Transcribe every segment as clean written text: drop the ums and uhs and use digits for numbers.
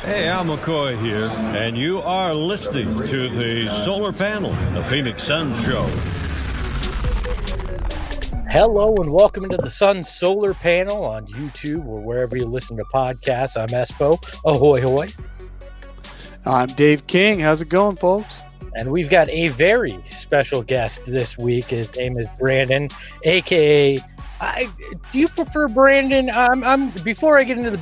Hey, Al McCoy here, and you are listening to the Solar Panel, the Phoenix Sun Show. Hello and welcome into the Sun Solar Panel on YouTube or wherever you listen to podcasts. I'm Espo. Ahoy, hoy. I'm Dave King. How's it going, folks? And we've got a very special guest this week. His name is Brandon, a.k.a. Do you prefer Brandon? Before I get into the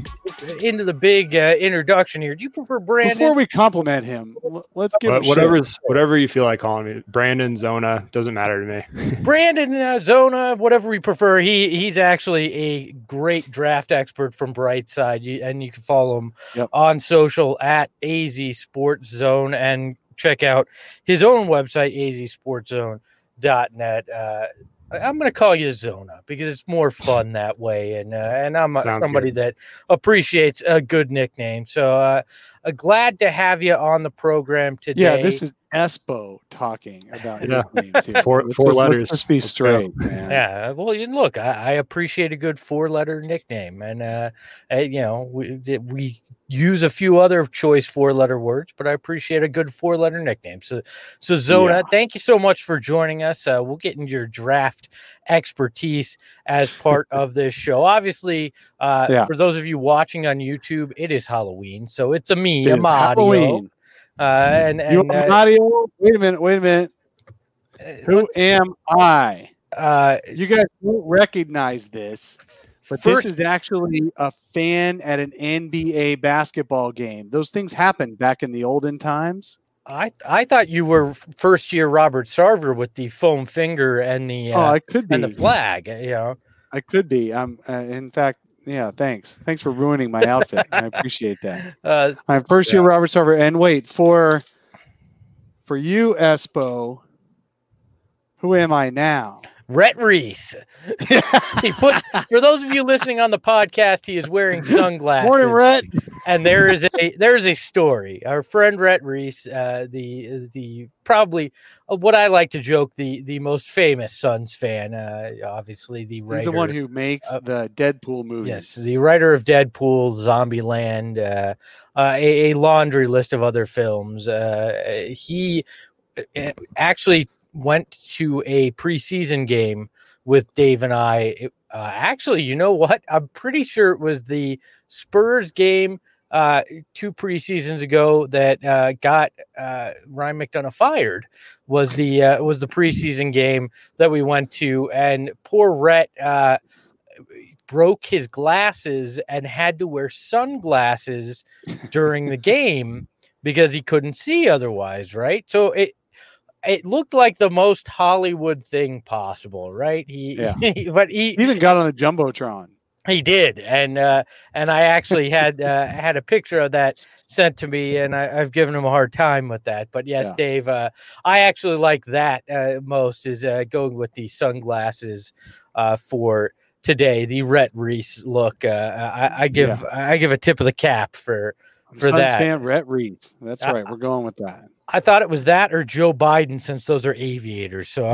big introduction here. Do you prefer Brandon? Before we compliment him, let's give whatever you feel like calling me. Brandon, Zona, doesn't matter to me. Brandon, Zona, whatever we prefer. He's actually a great draft expert from Brightside, and you can follow him on social at AZ Sports Zone and check out his own website, azsportszone.net. I'm going to call you Zona because it's more fun that way. And I'm somebody that appreciates a good nickname. So glad to have you on the program today. Yeah, this is Espo talking about nicknames here. Four letters. Let's be straight, man. Yeah, well, look, I appreciate a good 4-letter nickname. And, we use a few other choice 4-letter words, but I appreciate a good 4-letter nickname. So Zona, thank you so much for joining us. We'll get into your draft expertise as part of this show. Obviously, for those of you watching on YouTube, it is Halloween, so it's a Mario. Mario? Wait a minute. Who am I? You guys won't recognize this. But this is actually a fan at an NBA basketball game. Those things happened back in the olden times. I thought you were first year Robert Sarver with the foam finger and the I could be. and the flag. I could be. In fact, thanks for ruining my outfit. I appreciate that. I'm first year Robert Sarver. And wait, for you, Espo, who am I now? Rhett Reese. For those of you listening on the podcast, he is wearing sunglasses. Morning, Rhett. And there is a story. Our friend Rhett Reese, the probably what I like to joke, the most famous Suns fan. Obviously, the writer. He's the one who makes the Deadpool movies. Yes, the writer of Deadpool, Zombieland, a laundry list of other films. He actually went to a preseason game with Dave and I. Actually, you know what? I'm pretty sure it was the Spurs game 2 preseasons ago that got Ryan McDonough fired. Was the preseason game that we went to, and poor Rhett broke his glasses and had to wear sunglasses during the game because he couldn't see otherwise. Right, so it looked like the most Hollywood thing possible, right? He even got on the Jumbotron. He did, and I actually had a picture of that sent to me, and I've given him a hard time with that. But yes, Dave, I actually like that most is going with the sunglasses for today, the Rhett Reese look. I give a tip of the cap for Suns that. Fan Rhett Reese. That's right. We're going with that. I thought it was that or Joe Biden, since those are aviators. So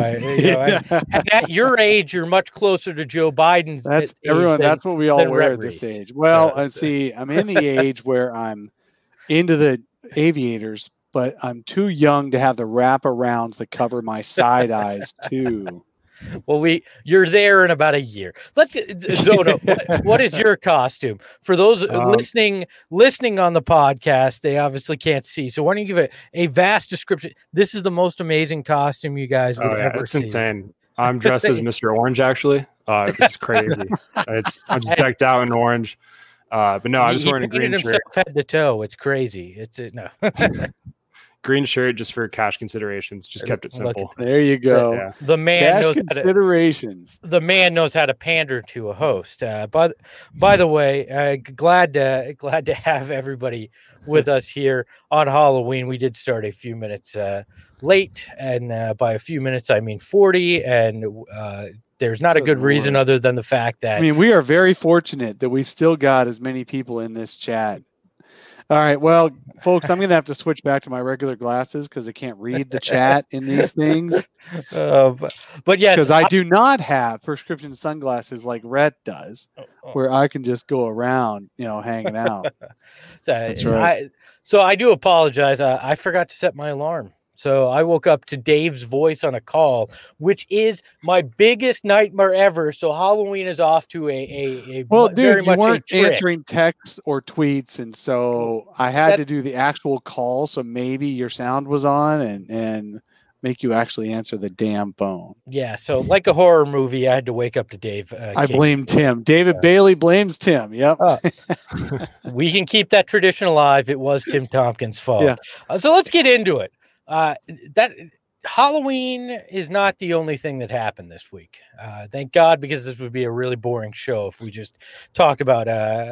at your age, you're much closer to Joe Biden's. That's everyone. That's what we all wear at this age. Well, see, I'm in the age where I'm into the aviators, but I'm too young to have the wraparounds that cover my side eyes too. Well, you're there in about a year. Let's Zona. What is your costume for those listening on the podcast? They obviously can't see, so why don't you give it a vast description? This is the most amazing costume you guys would ever see. It's insane. I'm dressed as Mr. Orange. Actually, it's crazy. I'm just decked out in orange. But no, I'm just wearing a green shirt, head to toe. It's crazy. No. Green shirt just for cash considerations. Just kept it simple. There you go. Yeah. The man cash knows considerations. The man knows how to pander to a host. But by the way, glad to have everybody with us here on Halloween. We did start a few minutes late, and by a few minutes I mean 40. And there's not a good reason other than the fact that we are very fortunate that we still got as many people in this chat All right. Well, folks, I'm going to have to switch back to my regular glasses because I can't read the chat in these things. But yes, because I do not have prescription sunglasses like Rhett does, where I can just go around, hanging out. That's right. So I do apologize. I forgot to set my alarm. So I woke up to Dave's voice on a call, which is my biggest nightmare ever. So Halloween is off to a well, dude, very you much weren't a trick. answering texts or tweets, and so I had to do the actual call. So maybe your sound was on and make you actually answer the damn phone. Yeah. So like a horror movie, I had to wake up to Dave. I blame Tim. David Bailey blames Tim. Yep. We can keep that tradition alive. It was Tim Tompkins' fault. Yeah. So let's get into it. That Halloween is not the only thing that happened this week. Thank God, because this would be a really boring show if we just talked about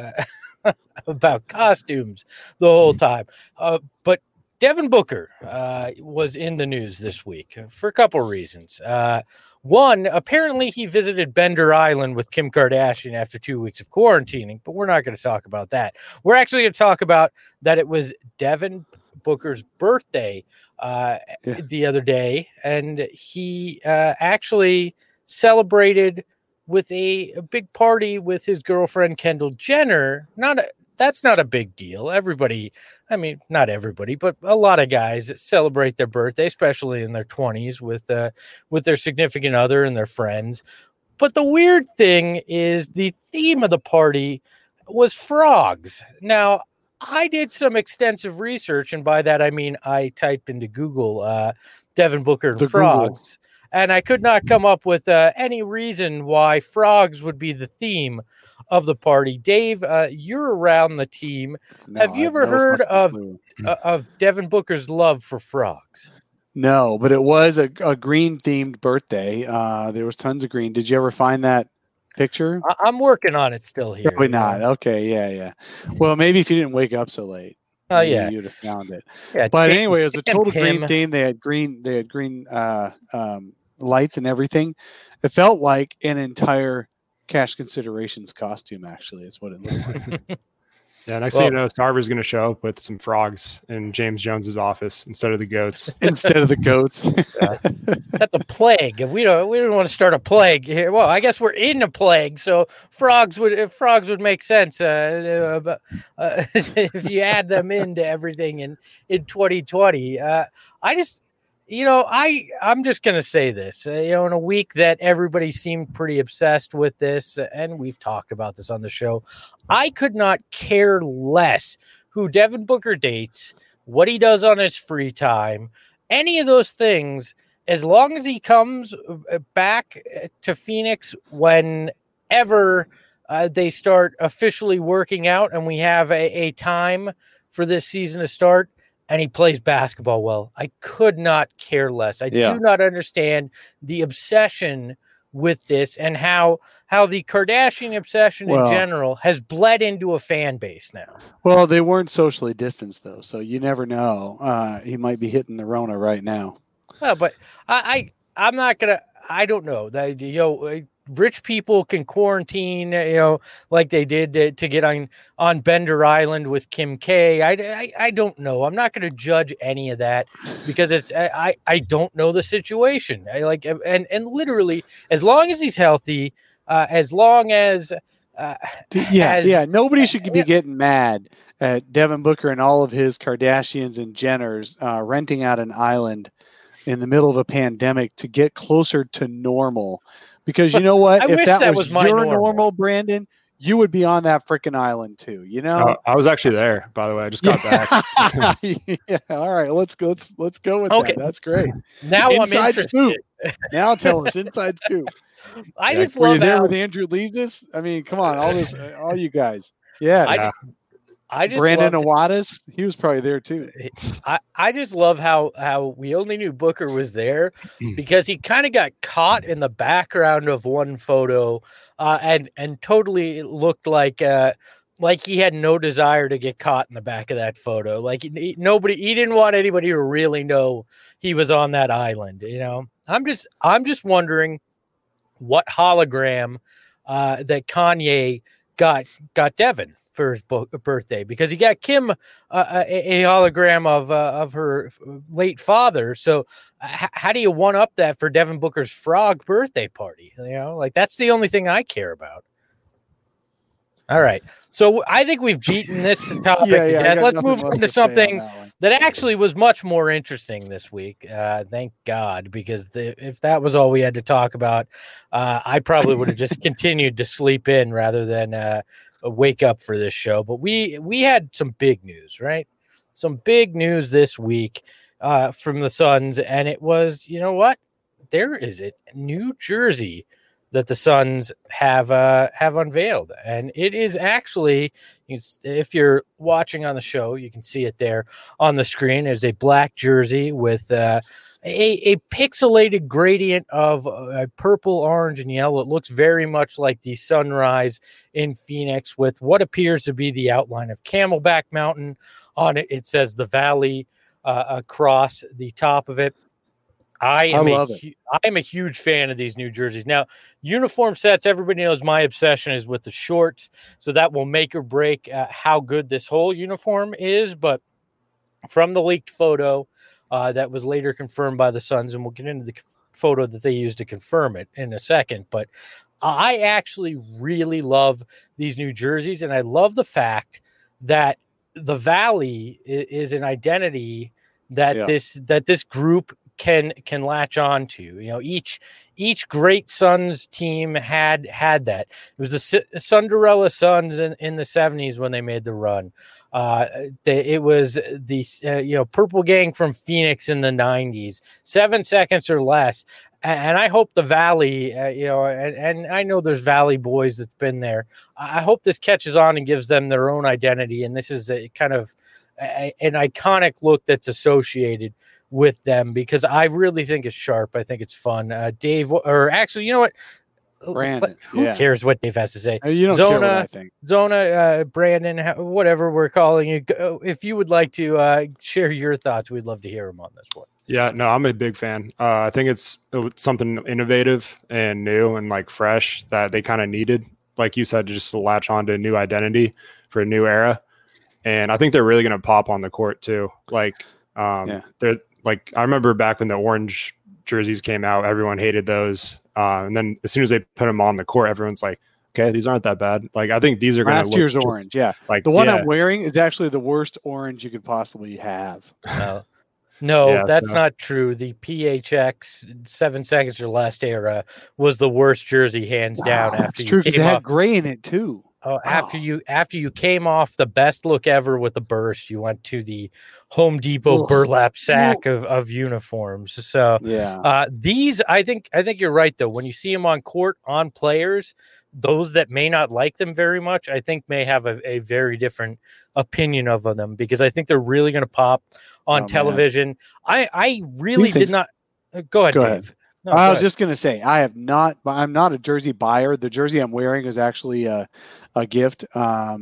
about costumes the whole time. But Devin Booker was in the news this week for a couple of reasons. One, apparently he visited Bender Island with Kim Kardashian after 2 weeks of quarantining, but we're not going to talk about that. We're actually going to talk about that it was Devin Booker's birthday the other day, and he actually celebrated with a big party with his girlfriend Kendall Jenner. That's not a big deal. Everybody, I mean, not everybody, but a lot of guys celebrate their birthday, especially in their 20s with their significant other and their friends. But the weird thing is the theme of the party was frogs. Now, I did some extensive research, and by that I mean I typed into Google Devin Booker and frogs, and I could not come up with any reason why frogs would be the theme of the party. Dave, you're around the team. Have you ever heard of Devin Booker's love for frogs? No, but it was a green-themed birthday. There was tons of green. Did you ever find that picture? I'm working on it still here. Probably not. Okay, yeah. Well, maybe if you didn't wake up so late. Oh yeah, you'd have found it. Yeah, but anyway, it was a total green theme. They had green lights and everything. It felt like an entire Cash Considerations costume. Actually, is what it looked like. Yeah, next thing you know, Sarver's going to show up with some frogs in James Jones's office instead of the goats. That's a plague. We don't want to start a plague here. Well, I guess we're in a plague, so frogs would make sense if you add them into everything in 2020. I'm just going to say this, in a week that everybody seemed pretty obsessed with this, and we've talked about this on the show, I could not care less who Devin Booker dates, what he does on his free time, any of those things, as long as he comes back to Phoenix whenever they start officially working out and we have a time for this season to start. And he plays basketball well. I could not care less. I do not understand the obsession with this and how the Kardashian obsession in general has bled into a fan base now. Well, they weren't socially distanced, though, so you never know. He might be hitting the Rona right now. Well, but I'm not going to – I don't know. Rich people can quarantine, like they did to get on Bender Island with Kim K. I don't know. I'm not going to judge any of that because I don't know the situation. And literally, as long as he's healthy, as long as nobody should be getting mad at Devin Booker and all of his Kardashians and Jenners renting out an island in the middle of a pandemic to get closer to normal. Because you know what? If that was your normal, Brandon, you would be on that freaking island too. I was actually there, by the way. I just got back. Yeah. All right. Let's go with that. That's great. Now inside I'm interested. Scoop. Now tell us inside scoop. I just love you there with Andrew Leasis. I mean, come on, all you guys. Yeah. I just Brandon Awadis, he was probably there too. I just love how we only knew Booker was there because he kind of got caught in the background of one photo, and totally looked like he had no desire to get caught in the back of that photo. Like he didn't want anybody to really know he was on that island. I'm just wondering what hologram that Kanye got Devin for his birthday because he got Kim a hologram of her late father. So how do you one up that for Devin Booker's frog birthday party? Like that's the only thing I care about. All right. So I think we've beaten this topic to death. Let's move on to something that actually was much more interesting this week. Thank God, because if that was all we had to talk about, I probably would have just continued to sleep in rather than wake up for this show. But we had some big news, right? Some big news this week from the Suns, and it was, you know what? There is a New Jersey that the Suns have unveiled, and it is actually, if you're watching on the show, you can see it there on the screen. There's a black jersey with a pixelated gradient of purple, orange, and yellow. It looks very much like the sunrise in Phoenix with what appears to be the outline of Camelback Mountain on it. It says the Valley across the top of it. I'm a huge fan of these new jerseys. Now, uniform sets, everybody knows my obsession is with the shorts, so that will make or break how good this whole uniform is. But from the leaked photo that was later confirmed by the Suns, and we'll get into the photo that they used to confirm it in a second, but I actually really love these new jerseys, and I love the fact that the Valley is an identity that this group can latch on to. Each great Suns team had that. It was the Cinderella Suns in the 70s when they made the run. It was the Purple Gang from Phoenix in the 90s, 7 seconds or less. And I hope the Valley, and I know there's Valley boys that's been there. I hope this catches on and gives them their own identity. And this is a kind of an iconic look that's associated with them, because I really think it's sharp. I think it's fun. Dave, or actually, you know what? Brandon, who cares what Dave has to say? You don't care what I think. Zona, Brandon, whatever we're calling you. If you would like to share your thoughts, we'd love to hear them on this one. Yeah, no, I'm a big fan. I think it's something innovative and new and like fresh that they kind of needed, like you said, just to latch on to a new identity for a new era. And I think they're really going to pop on the court too. They're like, I remember back when the orange jerseys came out, everyone hated those. And then as soon as they put them on the court, everyone's like, okay, these aren't that bad. Like, I think these are going to look last year's orange. Yeah. Like the one I'm wearing is actually the worst orange you could possibly have. No, that's not true. The PHX 7 seconds or less era was the worst jersey, hands down. That's true, because it had gray in it too. After you came off the best look ever with the burst, you went to the Home Depot burlap sack of uniforms. So these, I think you're right though. When you see them on court on players, those that may not like them very much, I think may have a very different opinion of them, because I think they're really going to pop on television. I really did not. Go ahead, Dave. No, I was just going to say, I'm not a jersey buyer. The jersey I'm wearing is actually a gift. I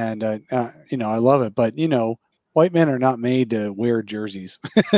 love it, but white men are not made to wear jerseys,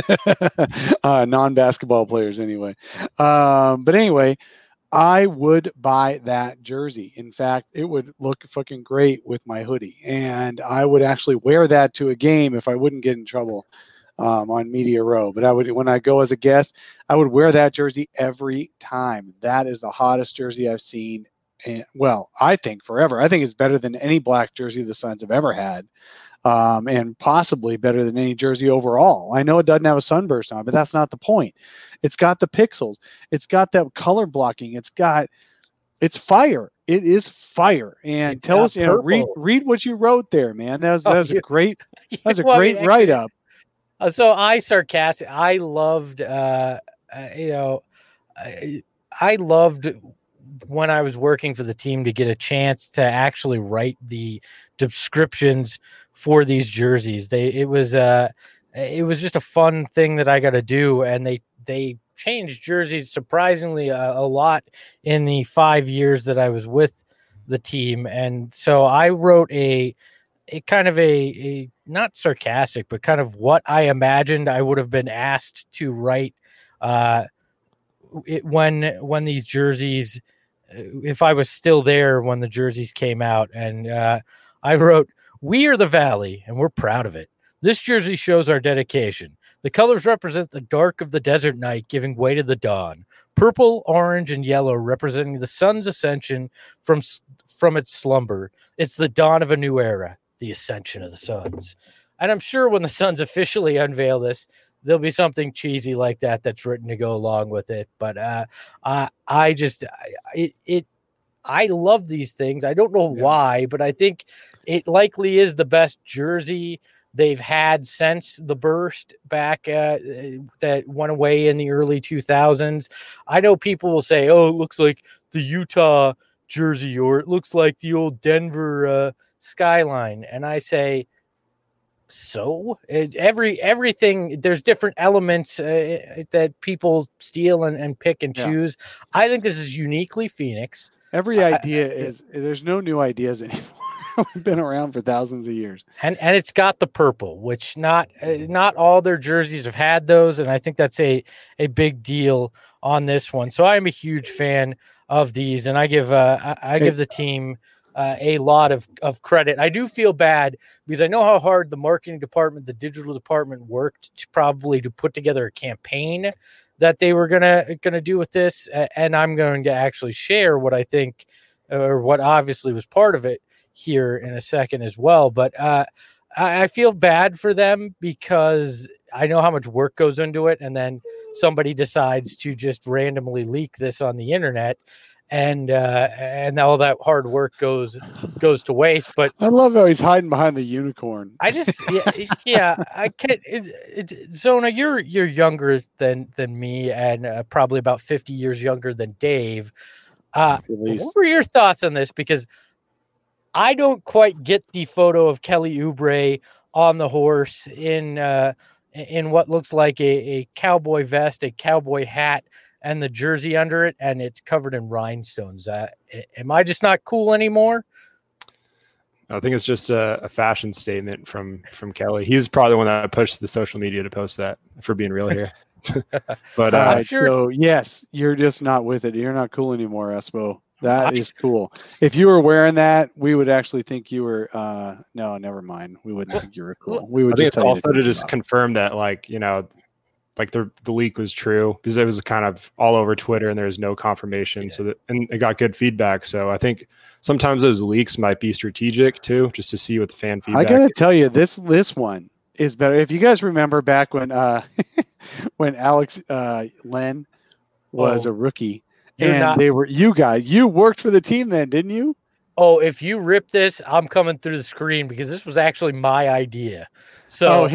non-basketball players anyway. But anyway, I would buy that jersey. In fact, it would look fucking great with my hoodie, and I would actually wear that to a game if I wouldn't get in trouble on Media Row. But when I go as a guest, I would wear that jersey every time. That is the hottest jersey I've seen. And, I think forever. I think it's better than any black jersey the Suns have ever had, and possibly better than any jersey overall. I know it doesn't have a sunburst on, but that's not the point. It's got the pixels. It's got that color blocking. It's fire. It is fire. And tell us, read what you wrote there, man. That was a great write up. So I loved, I loved when I was working for the team to get a chance to actually write the descriptions for these jerseys. It was just a fun thing that I got to do. And they changed jerseys surprisingly a lot in the 5 years that I was with the team. And so I wrote a kind of a not sarcastic, but kind of what I imagined I would have been asked to write when these jerseys, if I was still there when the jerseys came out. And I wrote, "We are the Valley, and we're proud of it. This jersey shows our dedication. The colors represent the dark of the desert night giving way to the dawn. Purple, orange, and yellow representing the sun's ascension from its slumber. It's the dawn of a new era, the ascension of the Suns." And I'm sure when the Suns officially unveil this, there'll be something cheesy like that that's written to go along with it. But I love these things. I don't know why, but I think it likely is the best jersey they've had since the burst back that went away in the early 2000s. I know people will say, "Oh, it looks like the Utah jersey," or "It looks like the old Denver skyline." And I say, so everything, there's different elements that people steal and pick and choose. I think this is uniquely Phoenix. Every idea there's no new ideas anymore. We've been around for thousands of years. And it's got the purple, which not all their jerseys have had those. And I think that's a big deal on this one. So I'm a huge fan of these, and I give the team a lot of credit. I do feel bad because I know how hard the marketing department, the digital department worked to put together a campaign that they were gonna do with this, and I'm going to actually share what I think, or what obviously was part of it here in a second as well. But I feel bad for them because I know how much work goes into it, and then somebody decides to just randomly leak this on the internet. And all that hard work goes to waste. But I love how he's hiding behind the unicorn. I just, I can't. Zona, you're younger than me, and probably about 50 years younger than Dave. What were your thoughts on this? Because I don't quite get the photo of Kelly Oubre on the horse in what looks like a cowboy vest, a cowboy hat, and the jersey under it, and it's covered in rhinestones. Am I just not cool anymore? I think it's just a fashion statement from Kelly. He's probably the one that pushed the social media to post that, for being real here. But sure. So yes, you're just not with it. You're not cool anymore, Espo. That is cool. If you were wearing that, we would actually think you were. No, never mind. We wouldn't think you were cool. We would. I think it's also to just confirm that, like, you know, like the leak was true, because it was kind of all over Twitter and there was no confirmation. So and it got good feedback. So I think sometimes those leaks might be strategic too, just to see what the fan feedback. I gotta tell you, this one is better. If you guys remember back when when Alex Len was a rookie, and you worked for the team then, didn't you? Oh, if you rip this, I'm coming through the screen, because this was actually my idea. So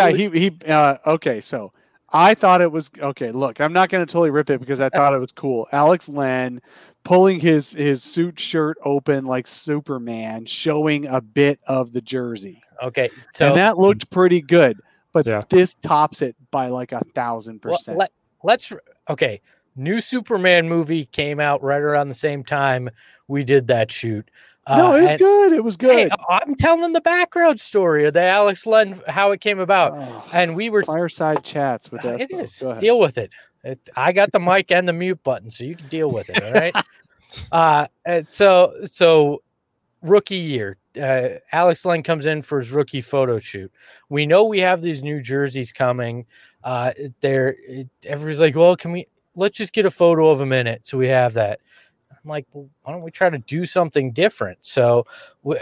okay, so I thought it was okay. Look, I'm not going to totally rip it because I thought it was cool. Alex Len pulling his suit shirt open like Superman, showing a bit of the jersey. Okay, and that looked pretty good. But this tops it by like 1,000%. Let's new Superman movie came out right around the same time we did that shoot. No, it was good. It was good. Hey, I'm telling the background story of the Alex Len, how it came about. And we were fireside chats with us. It is. Deal with it. I got the mic and the mute button, so you can deal with it. All right. And so rookie year, Alex Len comes in for his rookie photo shoot. We know we have these new jerseys coming. Everybody's like, well, let's just get a photo of him in it. So we have that. I'm like, well, why don't we try to do something different? So we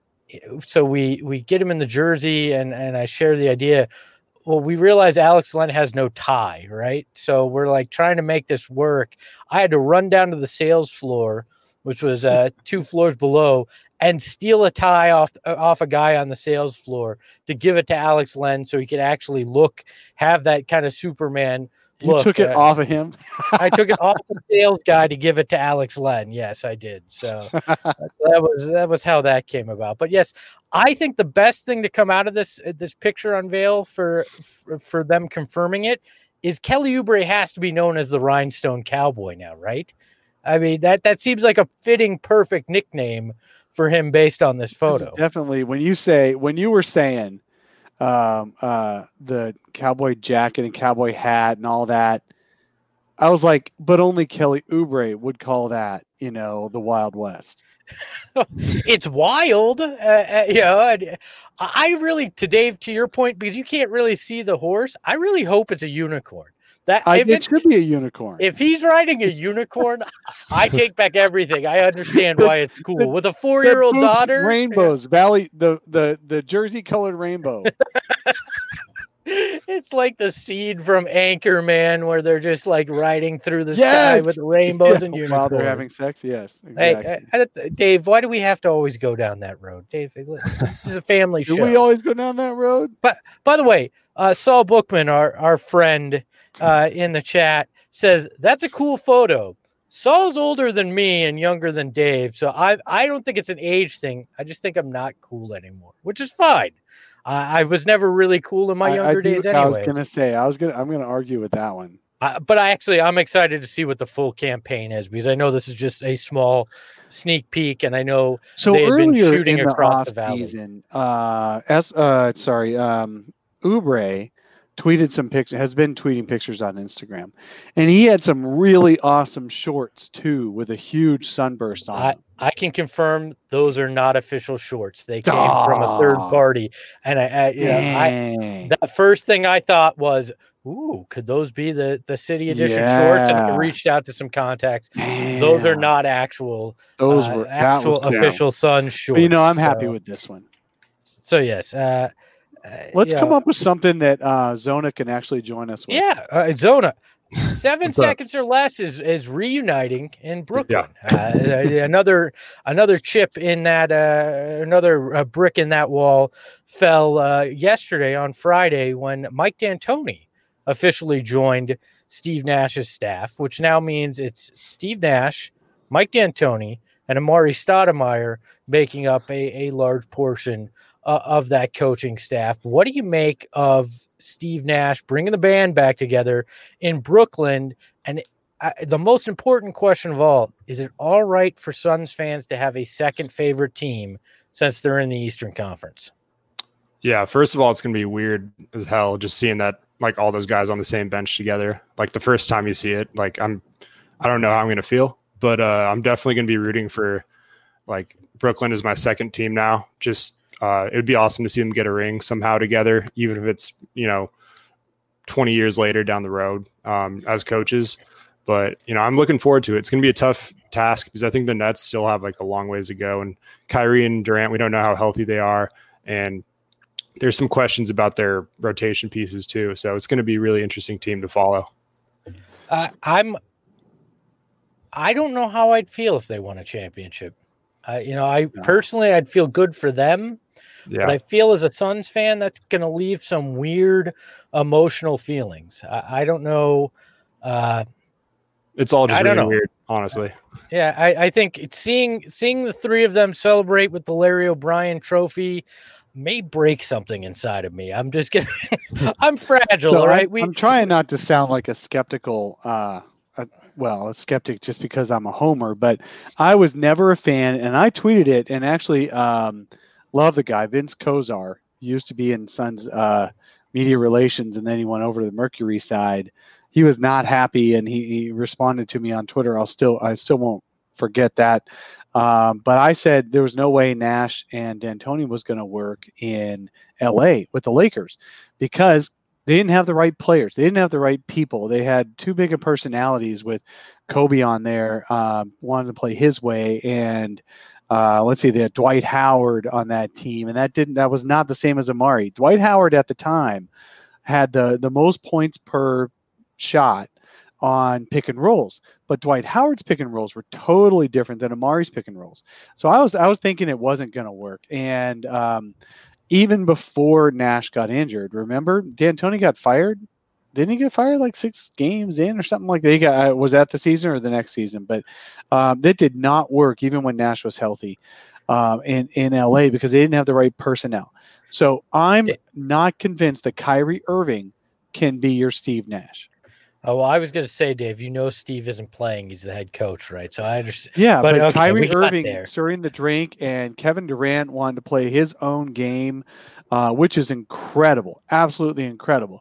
get him in the jersey, and I share the idea. Well, we realize Alex Len has no tie, right? So we're like trying to make this work. I had to run down to the sales floor, which was 2 floors below, and steal a tie off a guy on the sales floor to give it to Alex Len so he could actually have that kind of Superman. You took it off of him? I took it off the sales guy to give it to Alex Len. Yes, I did. So that was how that came about. But yes, I think the best thing to come out of this picture unveil for them confirming it is Kelly Oubre has to be known as the Rhinestone Cowboy now, right? I mean, that seems like a fitting, perfect nickname for him based on this photo. Definitely. When you were saying the cowboy jacket and cowboy hat and all that, I was like, but only Kelly Oubre would call that the Wild West. It's wild, I really, to your point, because you can't really see the horse, I really hope it's a unicorn. It should be a unicorn. If he's riding a unicorn, I take back everything. I understand why it's cool. With a 4-year-old daughter, rainbows, Valley, the jersey colored rainbow. It's like the scene from Anchorman where they're just like riding through the sky with rainbows and unicorns while they're having sex. Yes, exactly. Hey, Dave, why do we have to always go down that road, Dave? This is a family show. Do we always go down that road? But by the way, Saul Bookman, our friend in the chat, says that's a cool photo. Saul's older than me and younger than Dave, so I don't think it's an age thing. I just think I'm not cool anymore, which is fine. I was never really cool in my younger days anyway. I was going to say, I'm going to argue with that one. But I'm excited to see what the full campaign is, because I know this is just a small sneak peek, and I know they had been shooting across the valley. Season, Oubre tweeted some pictures, has been tweeting pictures on Instagram, and he had some really awesome shorts too, with a huge sunburst on them. I can confirm those are not official shorts. They came from a third party, and the first thing I thought was, ooh, could those be the City Edition shorts? And I reached out to some contacts. Man. Those are not actual. Those were actual official Sun shorts. But, I'm happy with this one. So yes, let's come up with something that Zona can actually join us with. Yeah, Zona. 7 seconds or less is reuniting in Brooklyn. Yeah. Another chip in that, another brick in that wall fell yesterday on Friday when Mike D'Antoni officially joined Steve Nash's staff, which now means it's Steve Nash, Mike D'Antoni, and Amari Stoudemire making up a large portion of that coaching staff. What do you make of Steve Nash bringing the band back together in Brooklyn? And the most important question of all, is it all right for Suns fans to have a second favorite team since they're in the Eastern Conference? Yeah, first of all, it's going to be weird as hell just seeing that, like, all those guys on the same bench together. Like, the first time you see it, like, I don't know how I'm going to feel, but I'm definitely going to be rooting for, like, Brooklyn is my second team now. Just it would be awesome to see them get a ring somehow together, even if it's 20 years later down the road as coaches. But I'm looking forward to it. It's going to be a tough task because I think the Nets still have like a long ways to go, and Kyrie and Durant, we don't know how healthy they are, and there's some questions about their rotation pieces too. So it's going to be a really interesting team to follow. I don't know how I'd feel if they won a championship. Personally, I'd feel good for them. Yeah. But I feel as a Suns fan, that's going to leave some weird emotional feelings. I don't know. It's all just really weird, honestly. Yeah, I think seeing the three of them celebrate with the Larry O'Brien trophy may break something inside of me. I'm just kidding. I'm fragile, all right? I'm trying not to sound like a skeptical a skeptic just because I'm a homer, but I was never a fan, and I tweeted it, and actually love the guy, Vince Kozar. He used to be in Suns media relations, and then he went over to the Mercury side. He was not happy, and he responded to me on Twitter. I still won't forget that. But I said there was no way Nash and D'Antoni was going to work in LA with the Lakers because they didn't have the right players. They didn't have the right people. They had too big of personalities with Kobe on there, wanted to play his way. And they had Dwight Howard on that team. And that was not the same as Amari. Dwight Howard at the time had the most points per shot on pick and rolls, but Dwight Howard's pick and rolls were totally different than Amari's pick and rolls. So I was thinking it wasn't going to work. And even before Nash got injured, remember D'Antoni got fired? Didn't he get fired like 6 games in or something like that? Was that the season or the next season? But that did not work even when Nash was healthy in LA because they didn't have the right personnel. So I'm not convinced that Kyrie Irving can be your Steve Nash. Oh, well, I was going to say, Dave, Steve isn't playing. He's the head coach, right? So I understand. Yeah, but okay, Kyrie Irving stirring the drink, and Kevin Durant wanted to play his own game, which is incredible, absolutely incredible.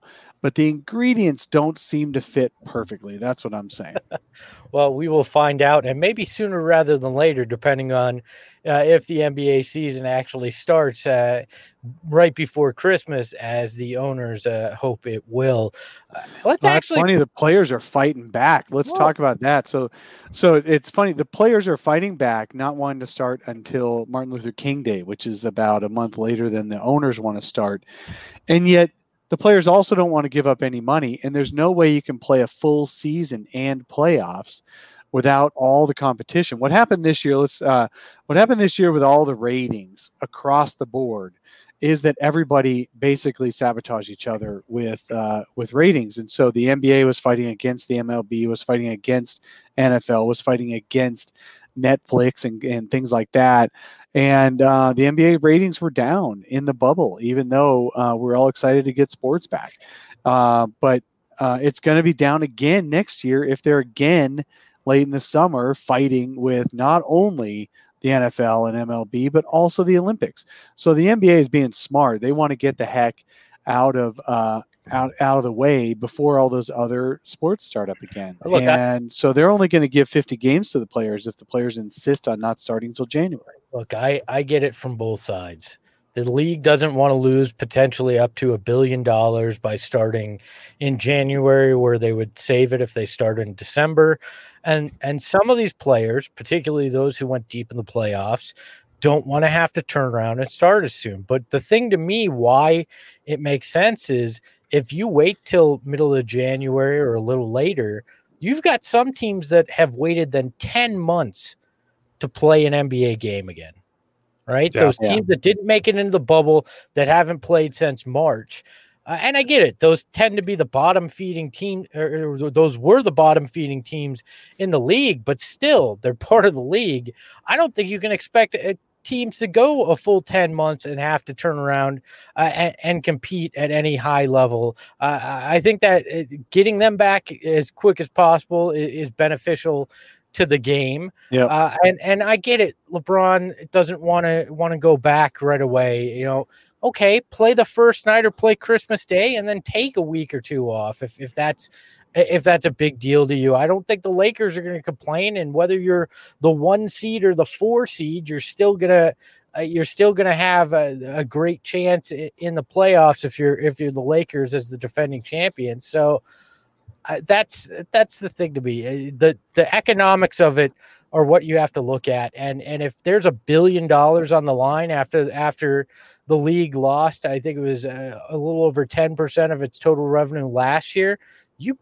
but the ingredients don't seem to fit perfectly. That's what I'm saying. Well, we will find out, and maybe sooner rather than later, depending on if the NBA season actually starts right before Christmas, as the owners hope it will. It's funny. The players are fighting back. Let's talk about that. So it's funny. The players are fighting back, not wanting to start until Martin Luther King Day, which is about a month later than the owners want to start, and yet the players also don't want to give up any money, and there's no way you can play a full season and playoffs without all the competition. What happened this year? What happened this year with all the ratings across the board is that everybody basically sabotaged each other with ratings, and so the NBA was fighting against the MLB, was fighting against NFL, was fighting against Netflix and things like that. And the NBA ratings were down in the bubble, even though we're all excited to get sports back. But it's going to be down again next year if they're again late in the summer fighting with not only the NFL and MLB, but also the Olympics. So the NBA is being smart. They want to get the heck out of the way before all those other sports start up again. So they're only going to give 50 games to the players if the players insist on not starting until January. Look, I get it from both sides. The league doesn't want to lose potentially up to $1 billion by starting in January, where they would save it if they started in December. And some of these players, particularly those who went deep in the playoffs, don't want to have to turn around and start as soon. But the thing to me, why it makes sense is if you wait till middle of January or a little later, you've got some teams that have waited then 10 months to play an NBA game again, right? Those teams that didn't make it into the bubble, that haven't played since March. And I get it. Those tend to be the bottom feeding team, or those were the bottom feeding teams in the league, but still they're part of the league. I don't think you can expect teams to go a full 10 months and have to turn around and compete at any high level. I think that getting them back as quick as possible is beneficial to the game. Yeah. And I get it. LeBron doesn't want to go back right away. Okay, play the first night or play Christmas Day and then take a week or two off if that's a big deal to you. I don't think the Lakers are going to complain, and whether you're the 1 seed or the 4 seed, you're still gonna have a great chance in the playoffs if you're the Lakers as the defending champions. So that's the thing to me. The economics of it are what you have to look at, and if there's $1 billion on the line after the league lost, I think it was a little over 10% of its total revenue last year, you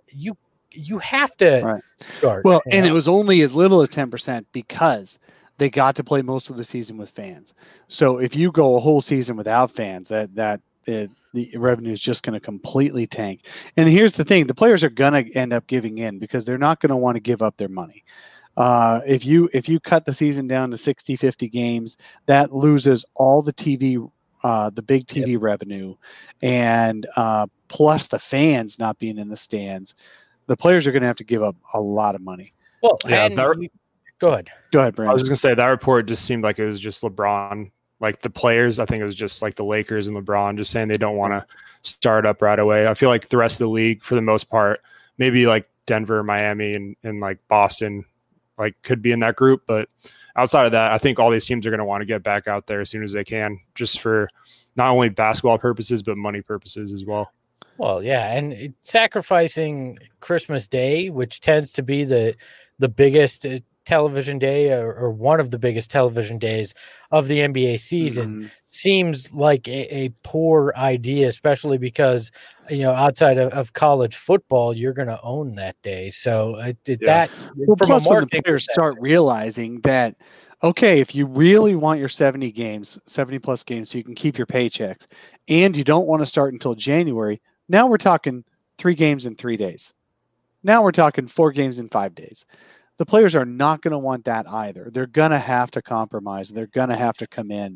have to start. Well, and it was only as little as 10% because they got to play most of the season with fans. So if you go a whole season without fans, the revenue is just going to completely tank. And here's the thing: the players are going to end up giving in because they're not going to want to give up their money. If you cut the season down to 60, 50 games, that loses all the TV, the big TV revenue, and plus the fans not being in the stands. The players are going to have to give up a lot of money. Well, go ahead, Brandon. I was just going to say that report just seemed like it was just LeBron. Like the players, I think it was just like the Lakers and LeBron just saying they don't want to start up right away. I feel like the rest of the league, for the most part, maybe like Denver, Miami, and like Boston, like could be in that group. But outside of that, I think all these teams are going to want to get back out there as soon as they can, just for not only basketball purposes, but money purposes as well. Well, yeah. And sacrificing Christmas Day, which tends to be the biggest television day or one of the biggest television days of the NBA season, seems like a poor idea, especially because, outside of college football, you're going to own that day. So that's plus when the players start realizing that, okay, if you really want your 70 plus games, so you can keep your paychecks, and you don't want to start until January, now we're talking 3 games in 3 days. Now we're talking 4 games in 5 days. The players are not going to want that either. They're going to have to compromise. They're going to have to come in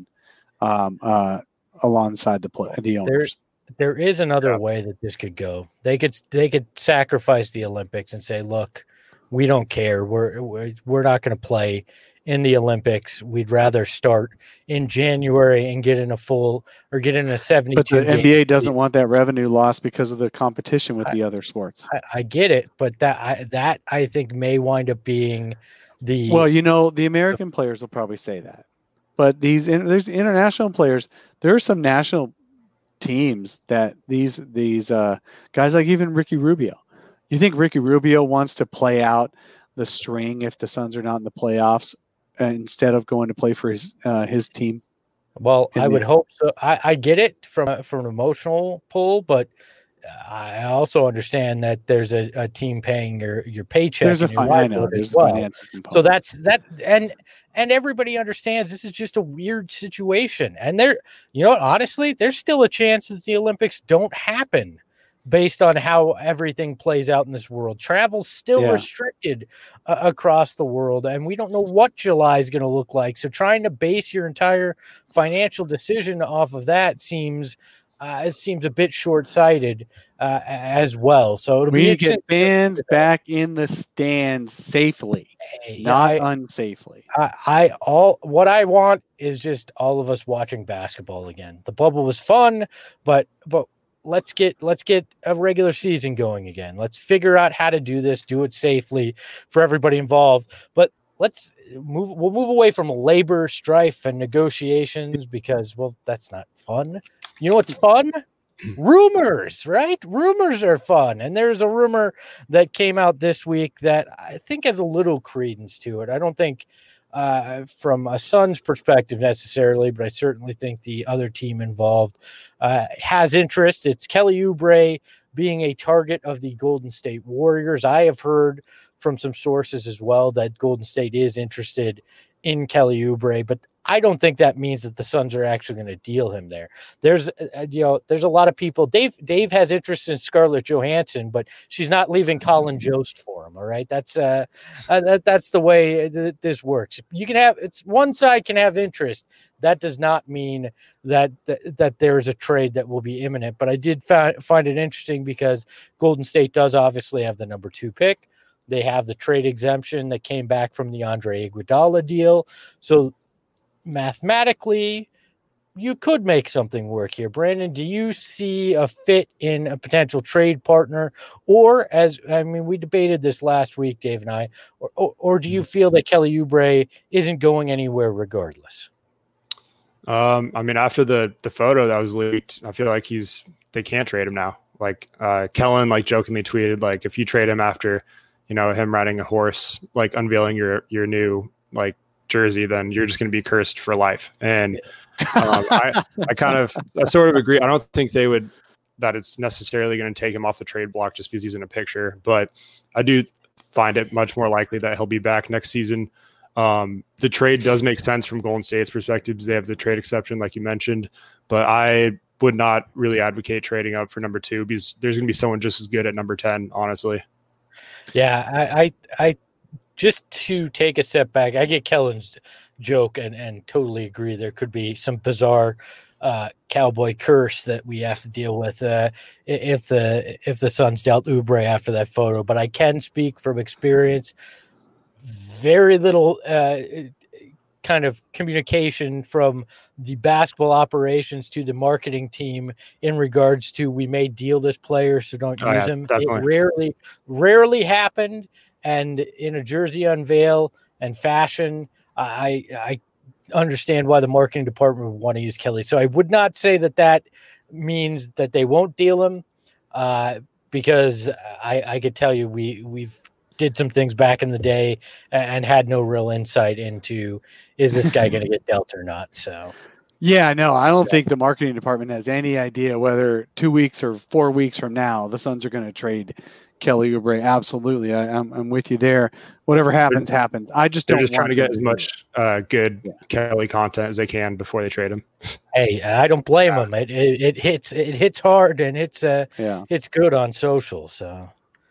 alongside the owners. There is another way that this could go. They could sacrifice the Olympics and say, "Look, we don't care. We're not going to play in the Olympics. We'd rather start in January and get in a 72. But the NBA doesn't want that revenue loss because of the competition with the other sports. I get it, but that I think may wind up being the the American players will probably say that, but there's international players. There are some national teams that these guys, like even Ricky Rubio. You think Ricky Rubio wants to play out the string if the Suns are not in the playoffs instead of going to play for his team? Well, I would hope so. I get it from an emotional pull, but I also understand that there's a team paying your paycheck. There's a financial component. So that's that, and everybody understands this is just a weird situation. And honestly, there's still a chance that the Olympics don't happen based on how everything plays out in this world. Travel's still restricted across the world, and we don't know what July is going to look like. So trying to base your entire financial decision off of that seems a bit short-sighted as well. So it'll be get fans back in the stands safely, not unsafely. What I want is just all of us watching basketball again. The bubble was fun, but let's get a regular season going again. Let's figure out how to do this, do it safely for everybody involved. But we'll move away from labor strife and negotiations because, that's not fun. You know what's fun? Rumors, right? Rumors are fun. And there's a rumor that came out this week that I think has a little credence to it. I don't think from a Suns perspective necessarily, but I certainly think the other team involved has interest. It's Kelly Oubre being a target of the Golden State Warriors. I have heard from some sources as well that Golden State is interested in Kelly Oubre, but I don't think that means that the Suns are actually going to deal him there. There's a lot of people. Dave has interest in Scarlett Johansson, but she's not leaving Colin Jost for him. All right, that's the way this works. One side can have interest. That does not mean that there is a trade that will be imminent. But I did find it interesting because Golden State does obviously have the number 2 pick. They have the trade exemption that came back from the Andre Iguodala deal. So mathematically, you could make something work here. Brandon, do you see a fit in a potential trade partner? Or we debated this last week, Dave and I, or do you feel that Kelly Oubre isn't going anywhere regardless? After the photo that was leaked, I feel like they can't trade him now. Like Kellen jokingly tweeted, if you trade him after him riding a horse, unveiling your new jersey, then you're just going to be cursed for life. And I sort of agree. I don't think that it's necessarily going to take him off the trade block just because he's in a picture, but I do find it much more likely that he'll be back next season. The trade does make sense from Golden State's perspective because they have the trade exception, like you mentioned, but I would not really advocate trading up for number 2 because there's going to be someone just as good at number 10, honestly. Yeah, I just to take a step back, I get Kellen's joke and totally agree. There could be some bizarre cowboy curse that we have to deal with if the Suns dealt Oubre after that photo. But I can speak from experience. Very little kind of communication from the basketball operations to the marketing team in regards to we may deal this player, so don't use him. Definitely. It rarely happened. And in a jersey unveil and fashion, I understand why the marketing department would want to use Kelly. So I would not say that means that they won't deal him because I could tell you we've did some things back in the day and had no real insight into is this guy going to get dealt or not. So, yeah, no, I don't think the marketing department has any idea whether 2 weeks or 4 weeks from now the Suns are going to trade Kelly Oubre. Absolutely. I'm with you there. Whatever happens. I just They're just trying to get as much good Kelly content as they can before they trade him. Hey, I don't blame them. It hits hard and it's good on social. So,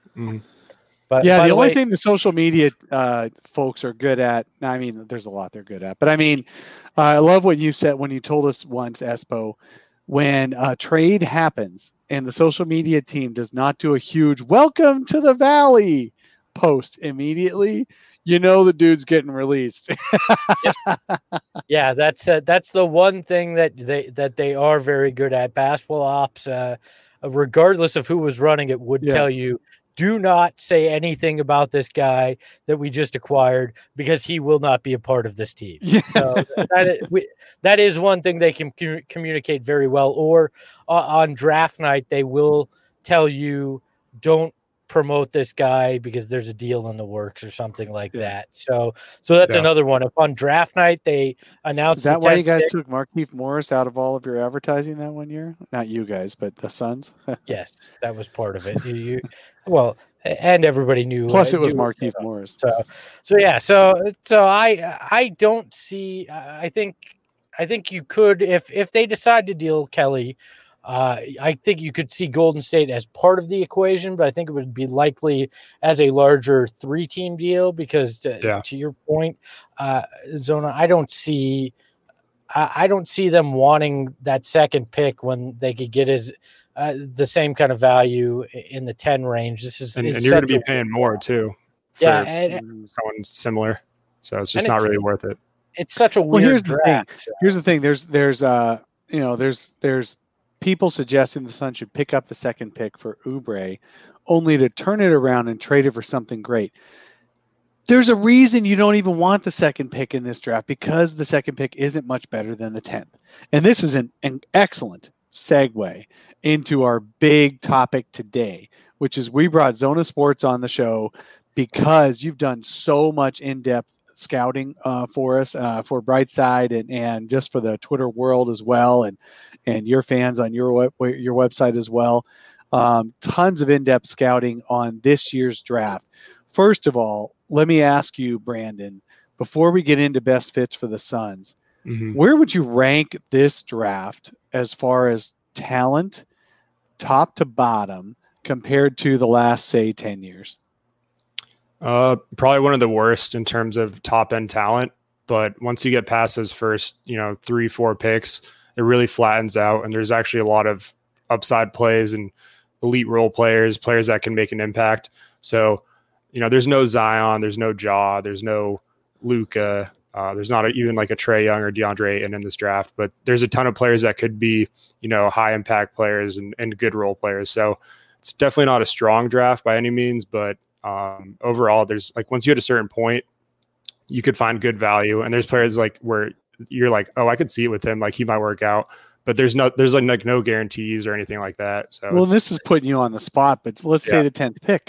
But the only thing the social media folks are good at, there's a lot they're good at, but I love what you said when you told us once, Espo, when a trade happens and the social media team does not do a huge welcome to the Valley post immediately, the dude's getting released. Yeah, that's the one thing that they are very good at. Basketball ops, regardless of who was running it, would tell you, do not say anything about this guy that we just acquired because he will not be a part of this team. Yeah. So that is one thing they can communicate very well. Or on draft night, they will tell you, don't promote this guy because there's a deal in the works or something like that. So that's another one. If on draft night they announced, is that why you guys took Markieff Morris out of all of your advertising that one year? Not you guys, but the Suns. Yes, that was part of it. Well, and everybody knew. Plus, it was Markieff Morris. So I don't see. I think you could, if they decide to deal Kelly. I think you could see Golden State as part of the equation, but I think it would be likely as a larger 3-team deal because to your point, Zona, I don't see them wanting that second pick when they could get the same kind of value in the 10 range. And you're going to be paying more too. For someone similar. So it's just not really worth it. It's such a weird draft. Here's the thing. There's people suggesting the Suns should pick up the second pick for Oubre, only to turn it around and trade it for something great. There's a reason you don't even want the second pick in this draft, because the second pick isn't much better than the 10th. And this is an excellent segue into our big topic today, which is we brought Zona Sports on the show because you've done so much in-depth scouting for us, for Brightside and just for the Twitter world as well, and your fans on your website as well. Tons of in-depth scouting on this year's draft. First of all, let me ask you, Brandon, before we get into best fits for the Suns, where would you rank this draft as far as talent, top to bottom, compared to the last, say, 10 years? Probably one of the worst in terms of top end talent, but once you get past those first, 3-4 picks, it really flattens out. And there's actually a lot of upside plays and elite role players that can make an impact. So, there's no Zion, there's no Ja, there's no Luka, there's not even like a Trae Young or DeAndre Ayton in this draft, but there's a ton of players that could be, high impact players and good role players. So it's definitely not a strong draft by any means, but overall, there's once you hit a certain point, you could find good value. And there's players where you're like, oh, I could see it with him. He might work out, but there's no guarantees or anything like that. So this is putting you on the spot, but let's say the 10th pick.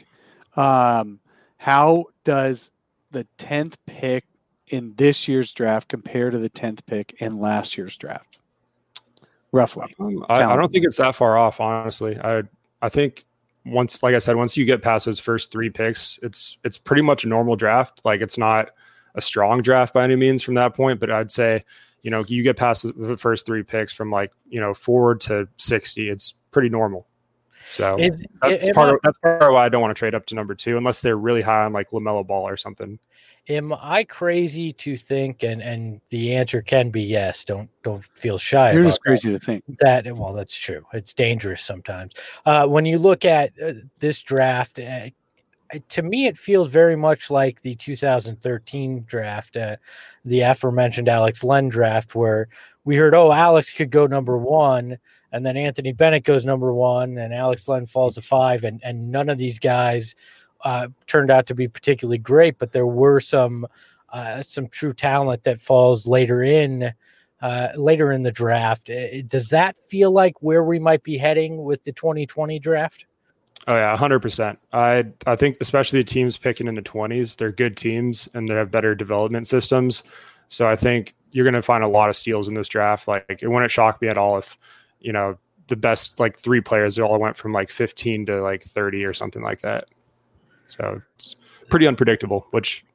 How does the 10th pick in this year's draft compare to the 10th pick in last year's draft? Roughly. I don't think it's that far off, honestly. I think once you get past those first 3 picks, it's pretty much a normal draft. It's not a strong draft by any means from that point, but I'd say, you get past the first 3 picks from 4 to 60, it's pretty normal. So that's part of why I don't want to trade up to number 2 unless they're really high on LaMelo Ball or something. Am I crazy to think, and the answer can be yes, don't feel shy. You're just crazy to think that. Well, that's true. It's dangerous sometimes. When you look at this draft, to me, it feels very much like the 2013 draft, the aforementioned Alex Len draft, where we heard, Alex could go number 1, and then Anthony Bennett goes number 1, and Alex Len falls to 5, and none of these guys turned out to be particularly great, but there were some true talent that falls later in the draft. Does that feel like where we might be heading with the 2020 draft? Oh yeah, 100%. I think especially the teams picking in the 20s, they're good teams and they have better development systems. So I think you're going to find a lot of steals in this draft. It wouldn't shock me at all if, the best 3 players, they all went from 15 to 30 or something like that. So it's pretty unpredictable,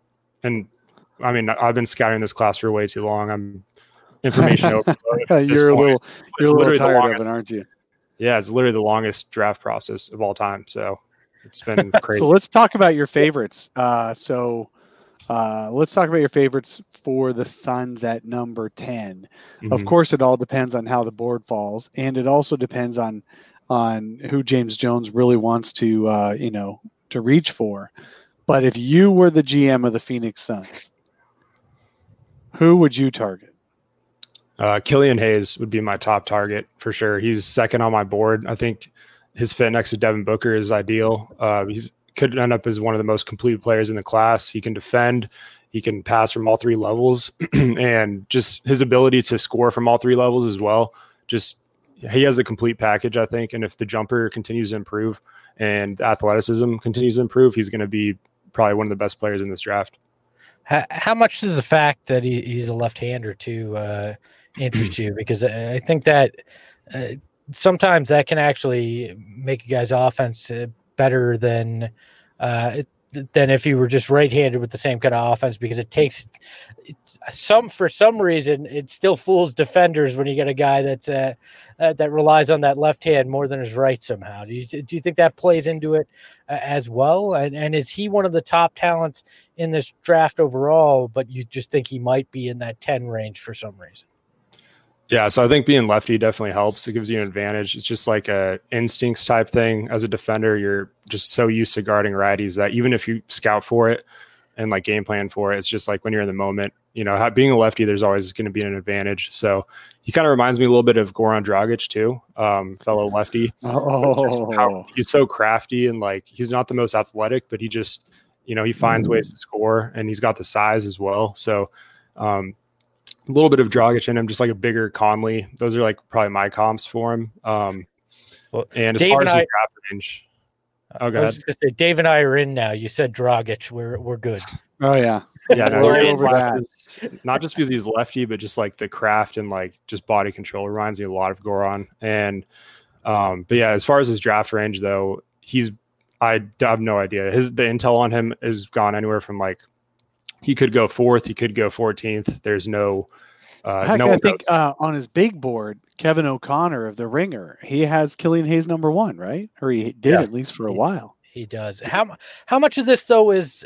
I've been scouting this class for way too long. I'm information overload. You're a little tired of it, aren't you? Yeah, it's literally the longest draft process of all time. So it's been crazy. So let's talk about your favorites. Let's talk about your favorites for the Suns at number 10. Mm-hmm. Of course, it all depends on how the board falls, and it also depends on who James Jones really wants to reach for. But if you were the GM of the Phoenix Suns, who would you target? Killian Hayes would be my top target for sure. He's second on my board. I think his fit next to Devin Booker is ideal. He's could end up as one of the most complete players in the class. He can defend, he can pass from all three levels, and just his ability to score from all three levels as well. Just he has a complete package, I think. And if the jumper continues to improve and athleticism continues to improve, he's going to be probably one of the best players in this draft. How much does the fact that he's a left-hander too interest you? Because I think that sometimes that can actually make a guy's offense better than if you were just right-handed with the same kind of offense, because it takes for some reason it still fools defenders when you get a guy that's that relies on that left hand more than his right somehow. Do you think that plays into it as well? And is he one of the top talents in this draft overall, but you just think he might be in that 10 range for some reason? Yeah, so I think being lefty definitely helps. It gives you an advantage. It's just like a instincts type thing. As a defender, you're just so used to guarding righties that even if you scout for it and like game plan for it, it's just like when you're in the moment, being a lefty, there's always going to be an advantage. So he kind of reminds me a little bit of Goran Dragic too, fellow lefty. He's so crafty and like he's not the most athletic, but he just, he finds ways to score and he's got the size as well. So, a little bit of Dragic in him, just like a bigger Conley. Those are like probably my comps for him. And as Dave far as the draft range, I was just gonna say, Dave and I are in now. You said Dragic, we're good. Oh yeah, yeah. No, not just because he's lefty, but just like the craft and like just body control reminds me a lot of Goran. And but yeah, as far as his draft range though, I have no idea. The intel on him has gone anywhere from like. He could go 4th. He could go 14th. There's no. I think on his big board, Kevin O'Connor of The Ringer, he has Killian Hayes number 1, right? Or he did at least for a while. He does. How much of this though is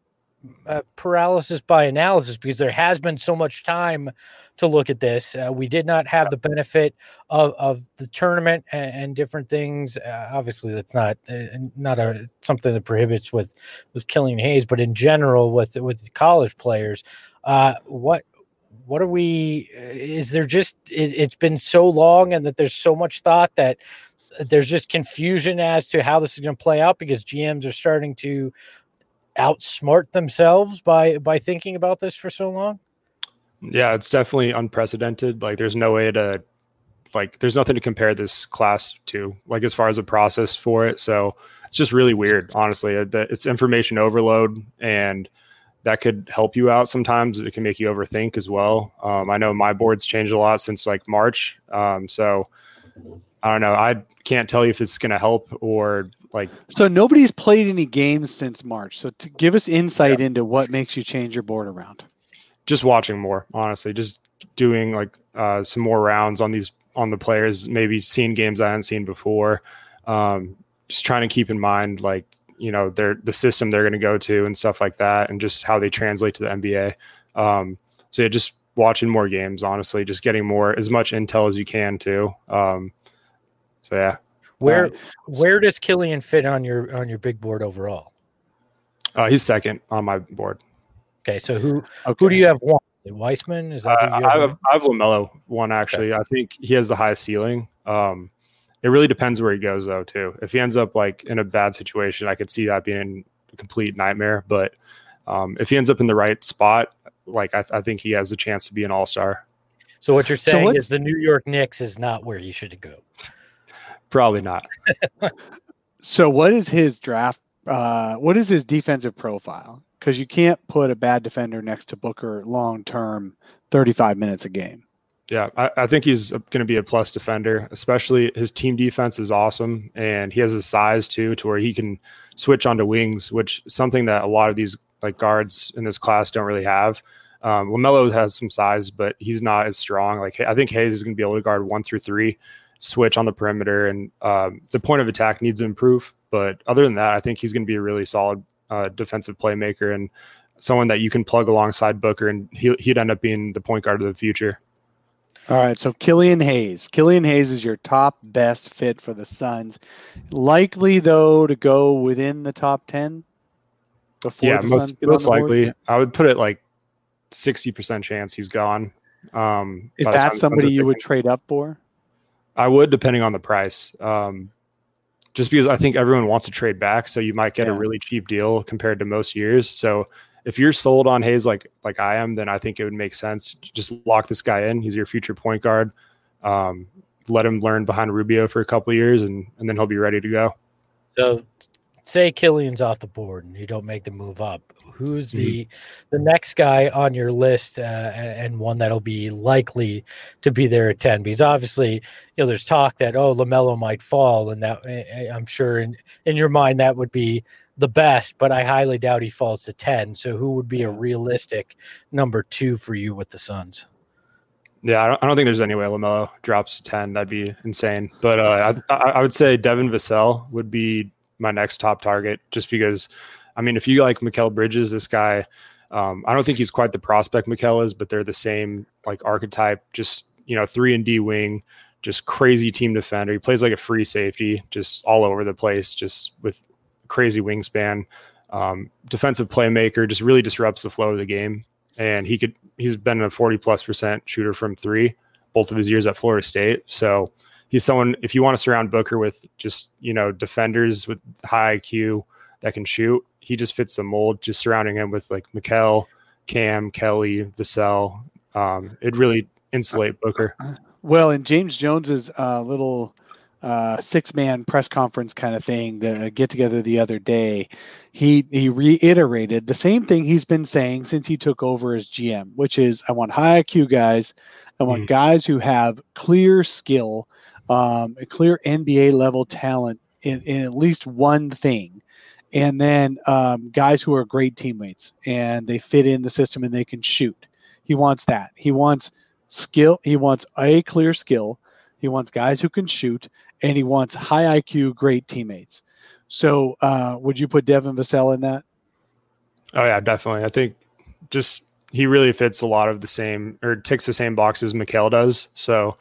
paralysis by analysis? Because there has been so much time to look at this. We did not have the benefit of the tournament and different things. Obviously, that's not something that prohibits with Killian Hayes, but in general with the college players, what are we? Is there just it's been so long, and that there's so much thought that there's just confusion as to how this is going to play out because GMs are starting to outsmart themselves by thinking about this for so long? Yeah, it's definitely unprecedented. Like there's no way to there's nothing to compare this class to, like as far as a process for it. So it's just really weird, honestly. It's information overload, and that could help you out sometimes. It can make you overthink as well. I know my board's changed a lot since like March. So I don't know. I can't tell you if it's going to help or like. So nobody's played any games since March. So to give us insight into what makes you change your board around. Just watching more, honestly, just doing like some more rounds on the players, maybe seeing games I hadn't seen before. Just trying to keep in mind, like, the system they're going to go to and stuff like that, and just how they translate to the NBA. So yeah, just watching more games, honestly, just getting as much intel as you can too. So yeah. Where does Killian fit on your big board overall? He's second on my board. Okay, so who do you have one? Is it Weissman? Is that who you have? I have LaMelo one actually. Okay. I think he has the highest ceiling. It really depends where he goes though too. If he ends up like in a bad situation, I could see that being a complete nightmare. But if he ends up in the right spot, like I think he has a chance to be an all-star. So what you're saying is the New York Knicks is not where he should go. Probably not. So what is his draft? What is his defensive profile? Because you can't put a bad defender next to Booker long-term 35 minutes a game. Yeah, I think he's going to be a plus defender, especially his team defense is awesome. And he has the size too, to where he can switch onto wings, which is something that a lot of these like guards in this class don't really have. LaMelo has some size, but he's not as strong. Like I think Hayes is going to be able to guard 1 through 3, switch on the perimeter, and the point of attack needs to improve. But other than that, I think he's going to be a really solid defensive playmaker and someone that you can plug alongside Booker, and he'd end up being the point guard of the future. All right, so Killian Hayes. Killian Hayes is your top best fit for the Suns. Likely, though, to go within the top 10? before the Suns get most on the board? likely. I would put it like 60% chance he's gone. Is that somebody you would trade up for? I would, depending on the price. Just because I think everyone wants to trade back, so you might get a really cheap deal compared to most years. So if you're sold on Hayes like I am, then I think it would make sense. Just lock this guy in. He's your future point guard. Let him learn behind Rubio for a couple of years, and then he'll be ready to go. So say Killian's off the board and you don't make the move up. Who's the next guy on your list and one that'll be likely to be there at 10? Because obviously, there's talk that, LaMelo might fall, and that I'm sure in your mind that would be the best, but I highly doubt he falls to 10. So who would be a realistic number 2 for you with the Suns? Yeah, I don't think there's any way LaMelo drops to 10. That'd be insane. But I would say Devin Vassell would be my next top target, just because, if you like Mikal Bridges, this guy, I don't think he's quite the prospect Mikal is, but they're the same like archetype, just, 3-and-D wing, just crazy team defender. He plays like a free safety, just all over the place, just with crazy wingspan, defensive playmaker, just really disrupts the flow of the game. And he's been a 40+% shooter from 3, both of his years at Florida State. So he's someone, if you want to surround Booker with just, defenders with high IQ that can shoot, he just fits the mold. Just surrounding him with like Mikal, Cam, Kelly, Vassell, it'd really insulate Booker. Well, in James Jones's little 6-man press conference kind of thing, the get together the other day, he reiterated the same thing he's been saying since he took over as GM, which is I want high IQ guys. I want guys who have clear skill, a clear NBA level talent in at least one thing. And then guys who are great teammates and they fit in the system and they can shoot. He wants that. He wants skill. He wants a clear skill. He wants guys who can shoot, and he wants high IQ, great teammates. So would you put Devin Vassell in that? Oh, yeah, definitely. I think just he really fits a lot of the same, or ticks the same boxes Mikal does. So,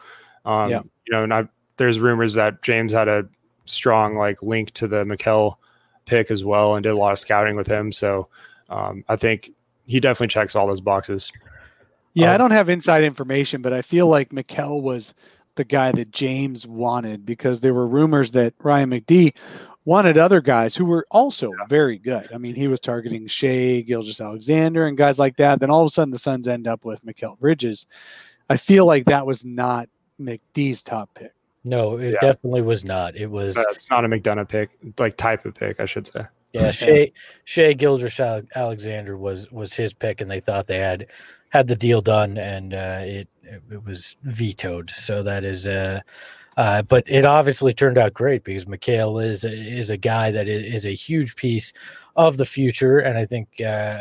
and there's rumors that James had a strong like link to the Mikal pick as well and did a lot of scouting with him. So I think he definitely checks all those boxes. Yeah, I don't have inside information, but I feel like Mikal was the guy that James wanted, because there were rumors that Ryan McD wanted other guys who were also very good. He was targeting Shea, Gilgeous-Alexander, and guys like that. Then all of a sudden the Suns end up with Mikal Bridges. I feel like that was not McD's top pick. No, it definitely was not. It was. It's not a McDonough pick, like type of pick, I should say. Yeah, Shea Gilgeous-Alexander was his pick, and they thought they had the deal done, and it was vetoed. So that is, but it obviously turned out great, because Mikal is a guy that is a huge piece of the future, and I think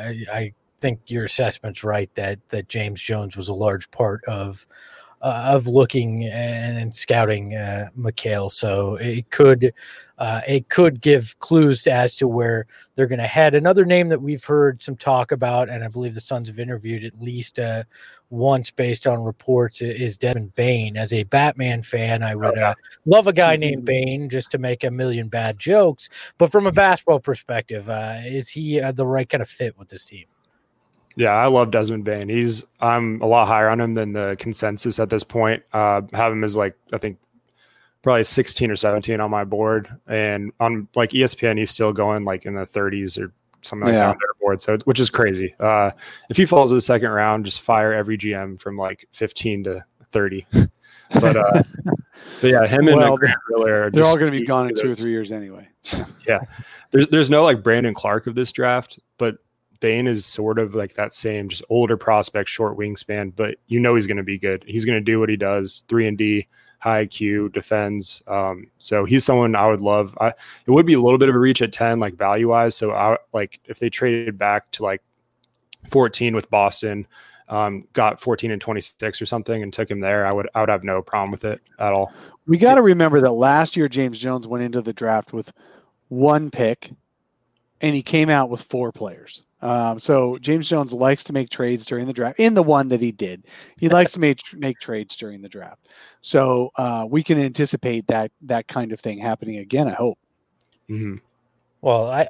your assessment's right that James Jones was a large part of looking and scouting Mikal. So it could give clues as to where they're going to head. Another name that we've heard some talk about, and I believe the Suns have interviewed at least once based on reports, is Desmond Bane. As a Batman fan, I would love a guy named Bane just to make a million bad jokes. But from a basketball perspective, is he the right kind of fit with this team? Yeah, I love Desmond Bane. I'm a lot higher on him than the consensus at this point. Have him as I think probably 16 or 17 on my board, and on like ESPN, he's still going like in the 30s or something like that on their board. So, which is crazy. If he falls to the second round, just fire every GM from like 15 to 30. But yeah, him and Grant Riller, they're all going to be gone in 2 or 3 years anyway. Yeah, there's no like Brandon Clark of this draft, but Bane is sort of like that same, just older prospect, short wingspan, but he's going to be good. He's going to do what he does, 3-and-D, high IQ, defends. So he's someone I would love. It would be a little bit of a reach at 10, like value wise. So if they traded back to like 14 with Boston, got 14 and 26 or something and took him there, I would have no problem with it at all. We got to remember that last year James Jones went into the draft with 1 pick and he came out with 4 players. So James Jones likes to make trades during the draft. In the one that he did, he likes to make trades during the draft. So we can anticipate that kind of thing happening again, I hope. Mm-hmm. Well,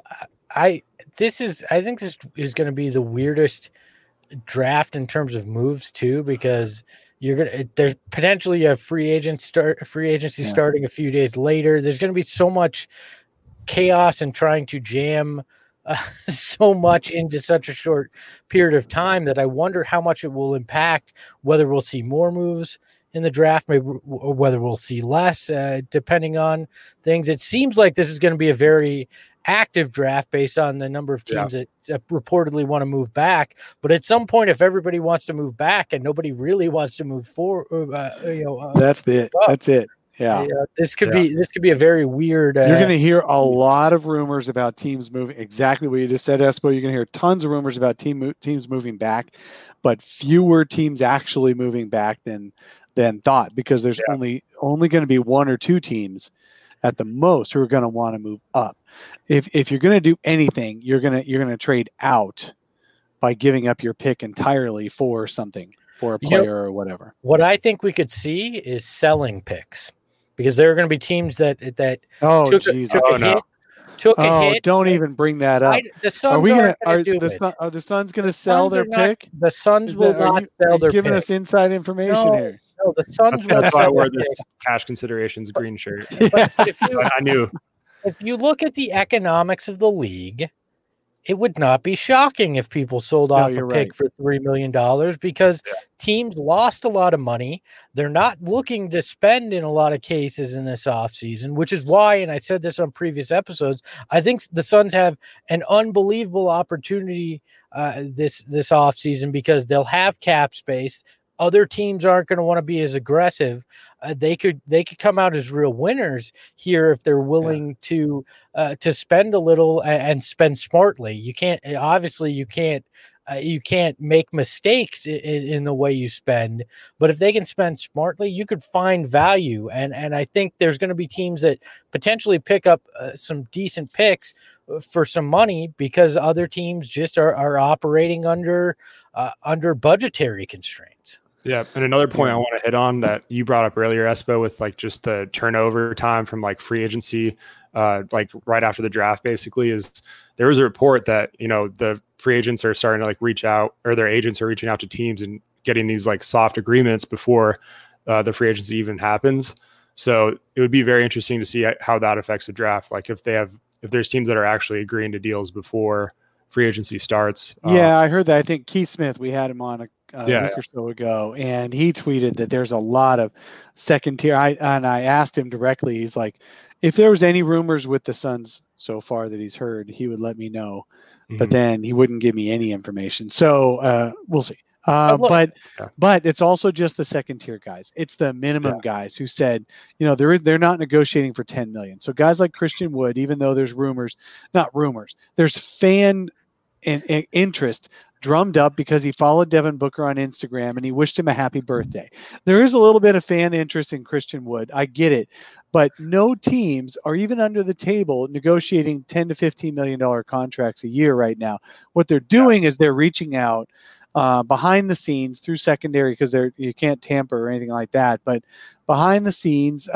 I think this is going to be the weirdest draft in terms of moves too, because there's potentially a free agency starting a few days later. There's going to be so much chaos and trying to jam so much into such a short period of time that I wonder how much it will impact whether we'll see more moves in the draft, maybe, or whether we'll see less, depending on things. It seems like this is going to be a very active draft based on the number of teams that reportedly want to move back. But at some point, if everybody wants to move back and nobody really wants to move forward, that's it. That's it. Yeah. This could be a very weird. You're going to hear a lot of rumors about teams moving. Exactly what you just said, Espo. You're going to hear tons of rumors about teams moving back, but fewer teams actually moving back than thought, because there's only going to be one or two teams at the most who are going to want to move up. If you're going to do anything, you're going to trade out by giving up your pick entirely for something, for a player or whatever. What I think we could see is selling picks, because there are going to be teams that took a hit. Don't even bring that up. The Suns are the Suns going to sell their pick? The Suns will not sell their pick. Giving us inside information here. No, the Suns that's why I wear this cash considerations green shirt. But I knew. If you look at the economics of the league, it would not be shocking if people sold off a pick for $3 million, because teams lost a lot of money. They're not looking to spend in a lot of cases in this offseason, which is why, and I said this on previous episodes, I think the Suns have an unbelievable opportunity this offseason, because they'll have cap space. Other teams aren't going to want to be as aggressive. They could come out as real winners here if they're willing to spend a little and spend smartly. You can't make mistakes in the way you spend, but if they can spend smartly, you could find value. And I think there's going to be teams that potentially pick up some decent picks for some money, because other teams just are operating under budgetary constraints. Yeah, and another point I want to hit on that you brought up earlier, Espo, with like just the turnover time from like free agency, like right after the draft, basically, is there was a report that, the free agents are starting to like reach out, or their agents are reaching out to teams and getting these like soft agreements before the free agency even happens. So it would be very interesting to see how that affects the draft. Like if there's teams that are actually agreeing to deals before free agency starts. Yeah, I heard that. I think Keith Smith, we had him on a week or so ago, and he tweeted that there's a lot of second tier. I asked him directly. He's like, if there was any rumors with the Suns so far that he's heard, he would let me know. Mm-hmm. But then he wouldn't give me any information. So we'll see. But it's also just the second tier guys. It's the minimum guys who said, they're not negotiating for $10 million. So guys like Christian Wood, even though there's there's fan and interest drummed up because he followed Devin Booker on Instagram and he wished him a happy birthday. There is a little bit of fan interest in Christian Wood. I get it, but no teams are even under the table negotiating $10 to $15 million contracts a year right now. What they're doing is they're reaching out behind the scenes through secondary, because you can't tamper or anything like that. But behind the scenes,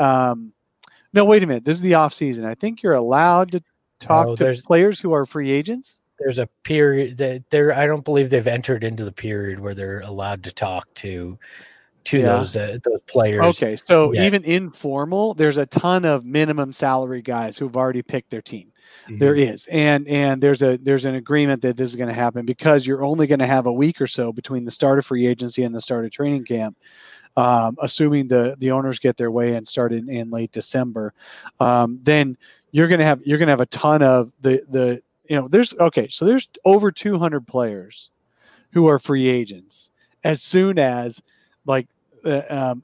no, wait a minute. This is the off season. I think you're allowed to talk to players who are free agents. There's a period that I don't believe they've entered into the period where they're allowed to talk to those players. Okay, so even informal, there's a ton of minimum salary guys who've already picked their team. Mm-hmm. There is, and there's an agreement that this is going to happen, because you're only going to have a week or so between the start of free agency and the start of training camp, assuming the owners get their way and start in late December. Then you're going to have a ton of there's over 200 players who are free agents as soon as Adam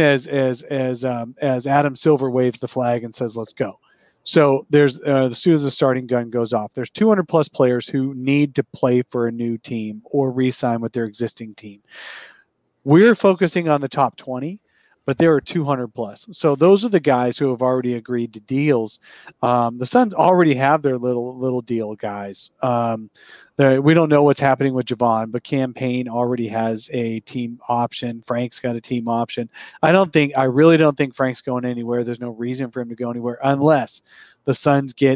Silver waves the flag and says, let's go. So there's as soon as the starting gun goes off, there's 200 plus players who need to play for a new team or re-sign with their existing team. We're focusing on the top 20, but there are 200 plus. So those are the guys who have already agreed to deals. The Suns already have their little deal guys. We don't know what's happening with Javon, but Cam Payne already has a team option. Frank's got a team option. I really don't think Frank's going anywhere. There's no reason for him to go anywhere unless the Suns get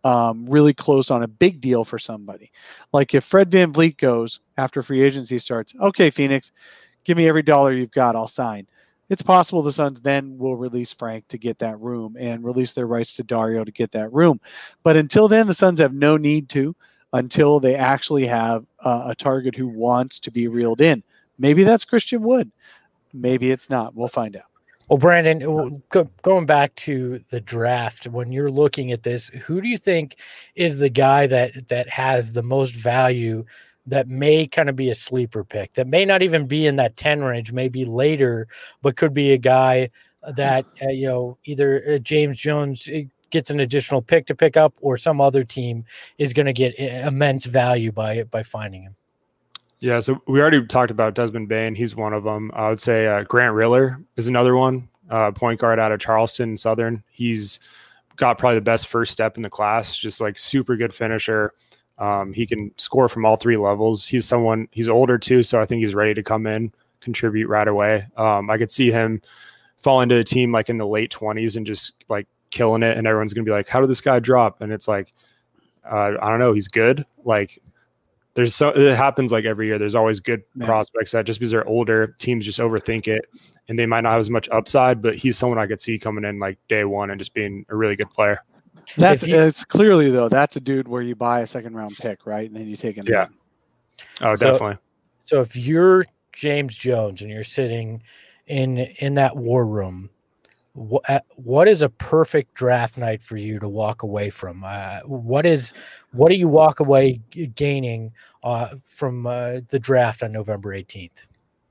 really close on a big deal for somebody. Like if Fred VanVleet goes after free agency starts, okay, Phoenix, give me every dollar you've got, I'll sign. It's possible the Suns then will release Frank to get that room and release their rights to Dario to get that room. But until then, the Suns have no need to, until they actually have a target who wants to be reeled in. Maybe that's Christian Wood. Maybe it's not. We'll find out. Well, Brandon, going back to the draft, when you're looking at this, who do you think is the guy that has the most value, that may kind of be a sleeper pick, that may not even be in that 10 range, maybe later, but could be a guy that, either James Jones gets an additional pick to pick up, or some other team is going to get immense value by finding him? Yeah, so we already talked about Desmond Bane. He's one of them. I would say Grant Riller is another one, point guard out of Charleston Southern. He's got probably the best first step in the class, just like super good finisher. He can score from all three levels. He's older too, so I think he's ready to come in, contribute right away. I could see him fall into a team like in the late 20s and just like killing it, and everyone's going to be like, how did this guy drop? And it's like, I don't know, he's good. Like, it happens like every year. There's always good prospects that just because they're older, teams just overthink it and they might not have as much upside, but he's someone I could see coming in like day one and just being a really good player. It's clearly though, that's a dude where you buy a second round pick, right? And then you take him. Yeah. Oh, definitely. So if you're James Jones and you're sitting in that war room, what is a perfect draft night for you to walk away from? What do you walk away gaining from the draft on November 18th?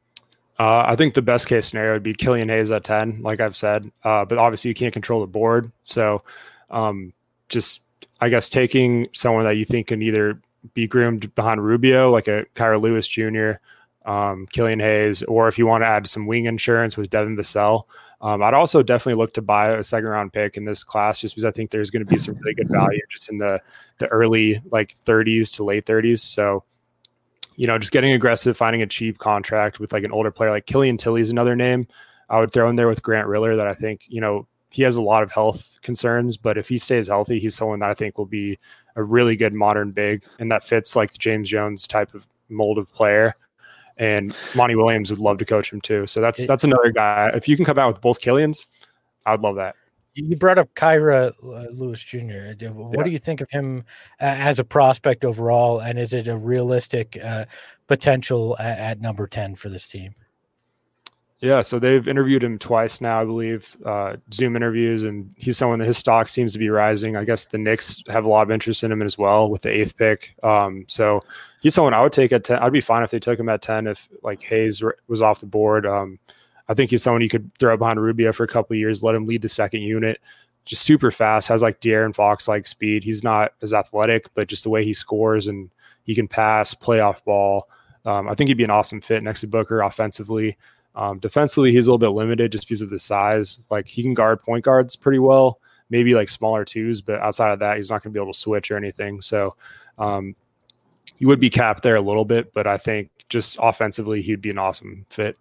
I think the best case scenario would be Killian Hayes at 10, like I've said, but obviously you can't control the board. So just, I guess, taking someone that you think can either be groomed behind Rubio, like a Kyra Lewis Jr., Killian Hayes, or if you want to add some wing insurance with Devin Vassell. I'd also definitely look to buy a second round pick in this class, just because I think there's going to be some really good value just in the early like 30s to late 30s. So, just getting aggressive, finding a cheap contract with like an older player like Killian Tilly is another name I would throw in there with Grant Riller that I think, he has a lot of health concerns, but if he stays healthy, he's someone that I think will be a really good modern big, and that fits like the James Jones type of mold of player. And Monty Williams would love to coach him too. So that's another guy. If you can come out with both Killians, I would love that. You brought up Kyra Lewis Jr. What do you think of him as a prospect overall? And is it a realistic potential at number 10 for this team? Yeah, so they've interviewed him twice now, I believe, Zoom interviews, and he's someone that his stock seems to be rising. I guess the Knicks have a lot of interest in him as well with the 8th pick. So he's someone I would take at 10. I'd be fine if they took him at 10 if like Hayes was off the board. I think he's someone you could throw behind Rubio for a couple of years, let him lead the second unit. Just super fast, has like De'Aaron Fox-like speed. He's not as athletic, but just the way he scores and he can pass, play off ball. I think he'd be an awesome fit next to Booker offensively. Defensively, he's a little bit limited just because of the size. Like he can guard point guards pretty well, maybe like smaller twos, but outside of that, he's not going to be able to switch or anything. So he would be capped there a little bit, but I think just offensively, he'd be an awesome fit.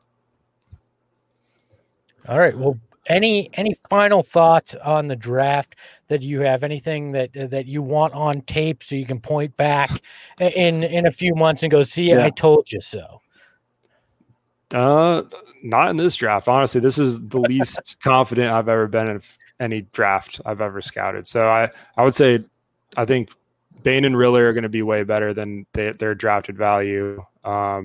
All right. Well, any final thoughts on the draft that you have? Anything that you want on tape so you can point back in a few months and go, see, I told you so. Not in this draft. Honestly, this is the least confident I've ever been in any draft I've ever scouted. So I would say I think Bane and Riller are going to be way better than their drafted value. I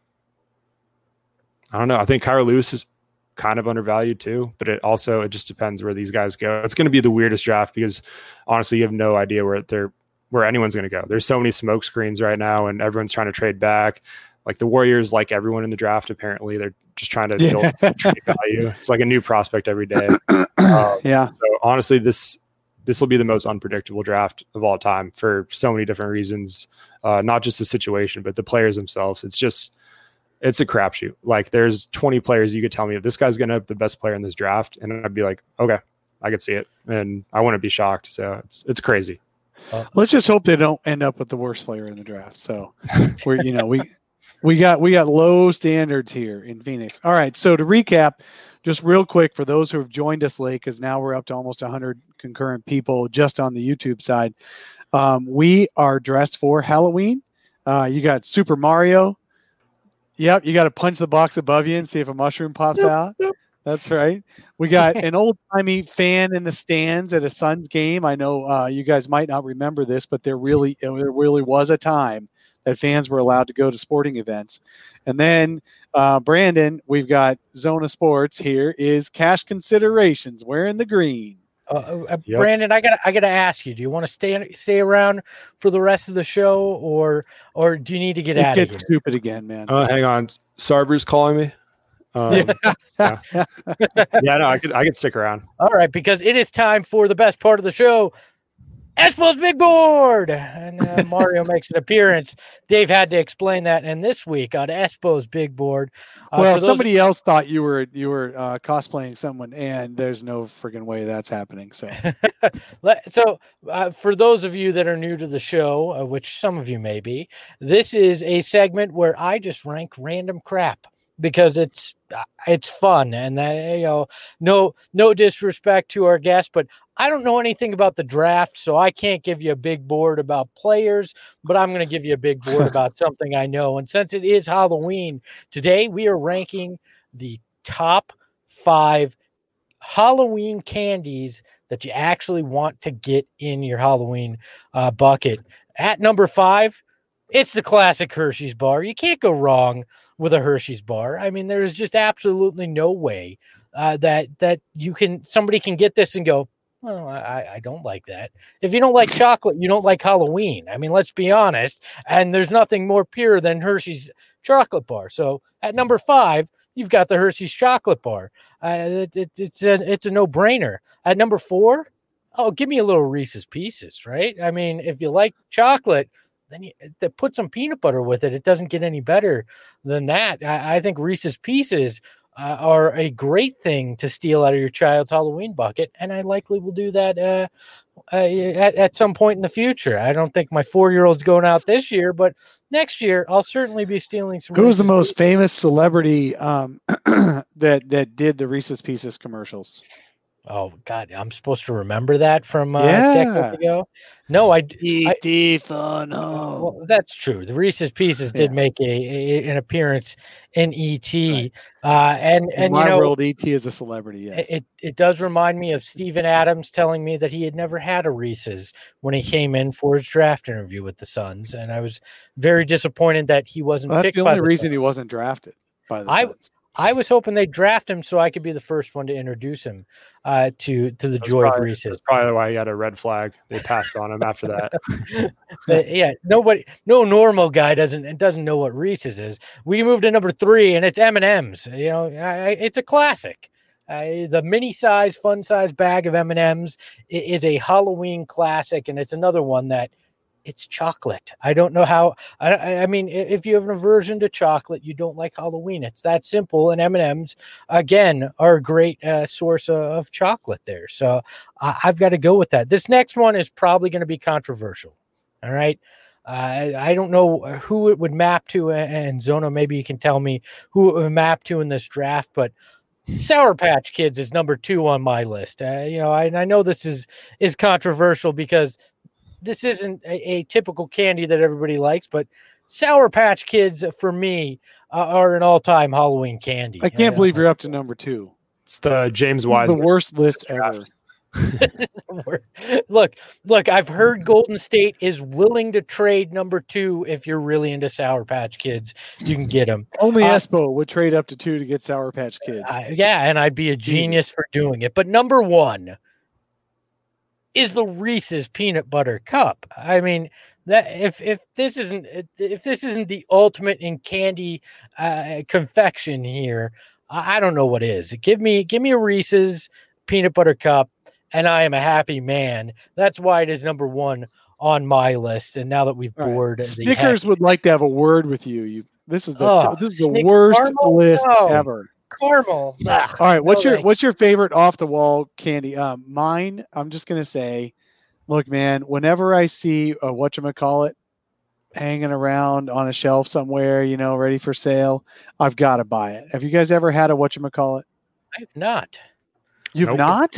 don't know. I think Kyra Lewis is kind of undervalued too, but it just depends where these guys go. It's going to be the weirdest draft because honestly, you have no idea where anyone's going to go. There's so many smoke screens right now and everyone's trying to trade back. Like the Warriors, like everyone in the draft, apparently they're just trying to build trade value. It's like a new prospect every day. So honestly, this will be the most unpredictable draft of all time for so many different reasons. Not just the situation, but the players themselves. It's a crapshoot. Like there's 20 players you could tell me this guy's going to have the best player in this draft, and I'd be like, okay, I could see it, and I wouldn't be shocked. So it's crazy. Let's just hope they don't end up with the worst player in the draft. So we got low standards here in Phoenix. All right. So to recap, just real quick for those who have joined us late, because now we're up to almost 100 concurrent people just on the YouTube side. We are dressed for Halloween. You got Super Mario. Yep, you got to punch the box above you and see if a mushroom pops out. That's right. We got an old-timey fan in the stands at a Suns game. I know you guys might not remember this, but there really was a time that fans were allowed to go to sporting events. And then, Brandon, we've got Zona Sports. Here is Cash Considerations wearing the green. Yep. Brandon, I gotta ask you: do you want to stay around for the rest of the show, or do you need to get out of here? It gets stupid again, man. Hang on, Sarver's calling me. No, I could stick around. All right, because it is time for the best part of the show. Espo's Big Board, and Mario makes an appearance. Dave had to explain that, and this week on Espo's Big Board, somebody else thought you were cosplaying someone, and there's no friggin' way that's happening. So, for those of you that are new to the show, which some of you may be, this is a segment where I just rank random crap because it's fun, and no disrespect to our guests, but I don't know anything about the draft, so I can't give you a big board about players, but I'm going to give you a big board about something I know. And since it is Halloween, today we are ranking the top 5 Halloween candies that you actually want to get in your Halloween bucket. At number 5, it's the classic Hershey's bar. You can't go wrong with a Hershey's bar. I mean, there is just absolutely no way that somebody can get this and go, well, I don't like that. If you don't like chocolate, you don't like Halloween. I mean, let's be honest. And there's nothing more pure than Hershey's chocolate bar. So at number 5, you've got the Hershey's chocolate bar. It's a no-brainer. At number 4, give me a little Reese's Pieces, right? I mean, if you like chocolate, then put some peanut butter with it. It doesn't get any better than that. I think Reese's Pieces are a great thing to steal out of your child's Halloween bucket, and I likely will do that at some point in the future. I don't think my 4-year-old's going out this year, but next year I'll certainly be stealing some. Who was the most famous celebrity that did the Reese's Pieces commercials? Oh God, I'm supposed to remember that from decades ago. No, E.T. Fun Home. Well, that's true. The Reese's Pieces did make an appearance in E.T. Right. And in my world, E.T. is a celebrity. Yes, it does remind me of Steven Adams telling me that he had never had a Reese's when he came in for his draft interview with the Suns, and I was very disappointed that he wasn't. Well, that's the only reason he wasn't drafted by the Suns. I was hoping they'd draft him so I could be the first one to introduce him to the joy of Reese's. That's probably why he had a red flag. They passed on him after that. No normal guy doesn't know what Reese's is. We moved to number 3, and it's M&M's. It's a classic. The mini size, fun size bag of M&M's is a Halloween classic, and it's another one that. It's chocolate. I don't know how. I mean, if you have an aversion to chocolate, you don't like Halloween. It's that simple. And M&M's, again, are a great source of chocolate there. So I've got to go with that. This next one is probably going to be controversial. All right. I don't know who it would map to. And Zona, maybe you can tell me who it would map to in this draft. But Sour Patch Kids is number 2 on my list. I know this is controversial because this isn't a typical candy that everybody likes, but Sour Patch Kids for me are an all-time Halloween candy. I can't believe you're up to number 2. It's the James Wiseman. The worst list ever. Look, I've heard Golden State is willing to trade number 2 if you're really into Sour Patch Kids. You can get them. Only Espo would trade up to 2 to get Sour Patch Kids. And I'd be a genius for doing it. But number 1 is the Reese's peanut butter cup. I mean, that if this isn't the ultimate in candy confection here, I don't know what is. Give me a Reese's peanut butter cup, and I am a happy man. That's why it is number 1 on my list. And now that we've bored, Snickers would like to have a word with you. This is the worst list ever. Caramel. All right, what's your favorite off the wall candy? Mine, I'm just gonna say, look, man, whenever I see a whatchamacallit hanging around on a shelf somewhere, ready for sale, I've got to buy it. Have you guys ever had a whatchamacallit? I have not. You've not?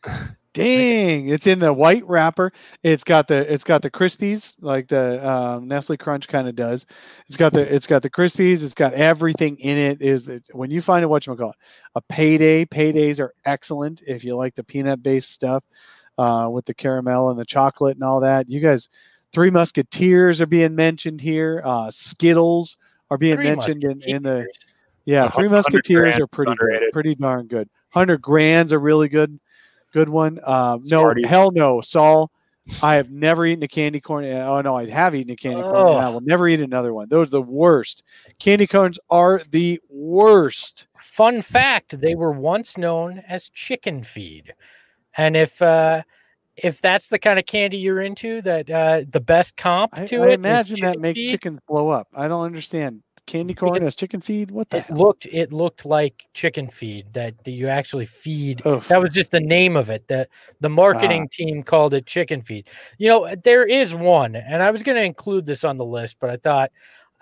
Dang, it's in the white wrapper. It's got the Crispies like the Nestle Crunch kind of does. It's got the Crispies. It's got everything in it. When you find a whatchamacallit, a Payday. Paydays are excellent if you like the peanut based stuff with the caramel and the chocolate and all that. You guys, Three Musketeers are being mentioned here. Skittles are being mentioned in the. Yeah, Three Musketeers are pretty good, pretty darn good. 100 Grand's a really good one. No, hell no, Saul. I have never eaten a candy corn. Oh no, I have eaten a candy corn, and I will never eat another one. Those are the worst. Candy corns are the worst. Fun fact: they were once known as chicken feed, and if that's the kind of candy you're into, that the best comp to I it, imagine that makes chickens blow up. I don't understand. Candy corn as chicken feed? What the hell? It looked like chicken feed that you actually feed. Oof. That was just the name of it. The marketing team called it chicken feed. You know, there is one, and I was going to include this on the list, but I thought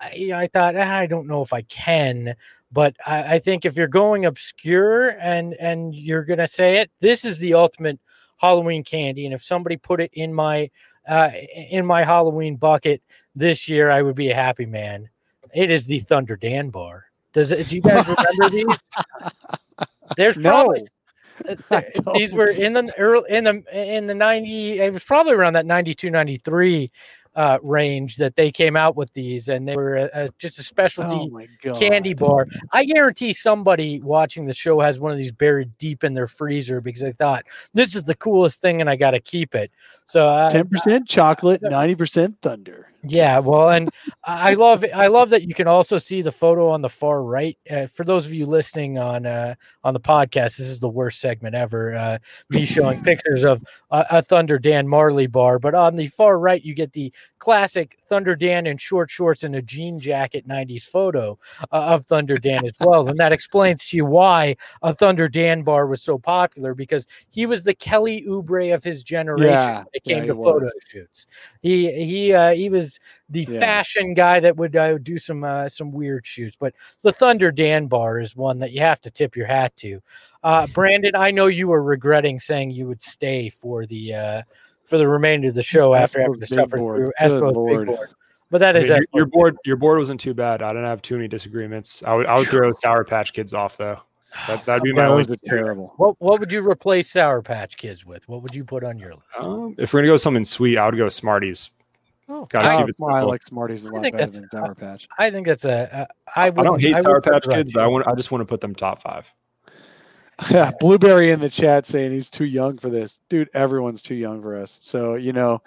I don't know if I can. But I think if you're going obscure and you're going to say it, this is the ultimate Halloween candy. And if somebody put it in my Halloween bucket this year, I would be a happy man. It is the Thunder Dan bar. Do you guys remember these? There's probably these were in the 90. It was probably around that 92, 93 range that they came out with these, and they were just a specialty candy bar. I guarantee somebody watching the show has one of these buried deep in their freezer because they thought this is the coolest thing and I got to keep it. So 10% chocolate, 90% Thunder. Yeah, well, and I love that you can also see the photo on the far right. For those of you listening on the podcast, this is the worst segment ever. Me showing pictures of a Thunder Dan Marley bar, but on the far right, you get the classic Thunder Dan in short shorts and a jean jacket 90s photo of Thunder Dan as well, and that explains to you why a Thunder Dan bar was so popular, because he was the Kelly Oubre of his generation when it came to photo shoots. He was the fashion guy that would do some weird shoots, but the Thunder Dan bar is one that you have to tip your hat to. Brandon, I know you were regretting saying you would stay for the remainder of the show after having to suffer through Espo's big board. But that is your board. Your board wasn't too bad. I didn't have too many disagreements. I would throw Sour Patch Kids off though. That'd be my only. Terrible. What would you replace Sour Patch Kids with? What would you put on your list? If we're gonna go something sweet, I would go Smarties. Gotta keep it simple. I like Smarties a lot better than Sour Patch. I think that's I don't hate Sour Patch Kids, but I just want to put them top 5. Yeah, Blueberry in the chat saying he's too young for this. Dude, everyone's too young for us. So, no,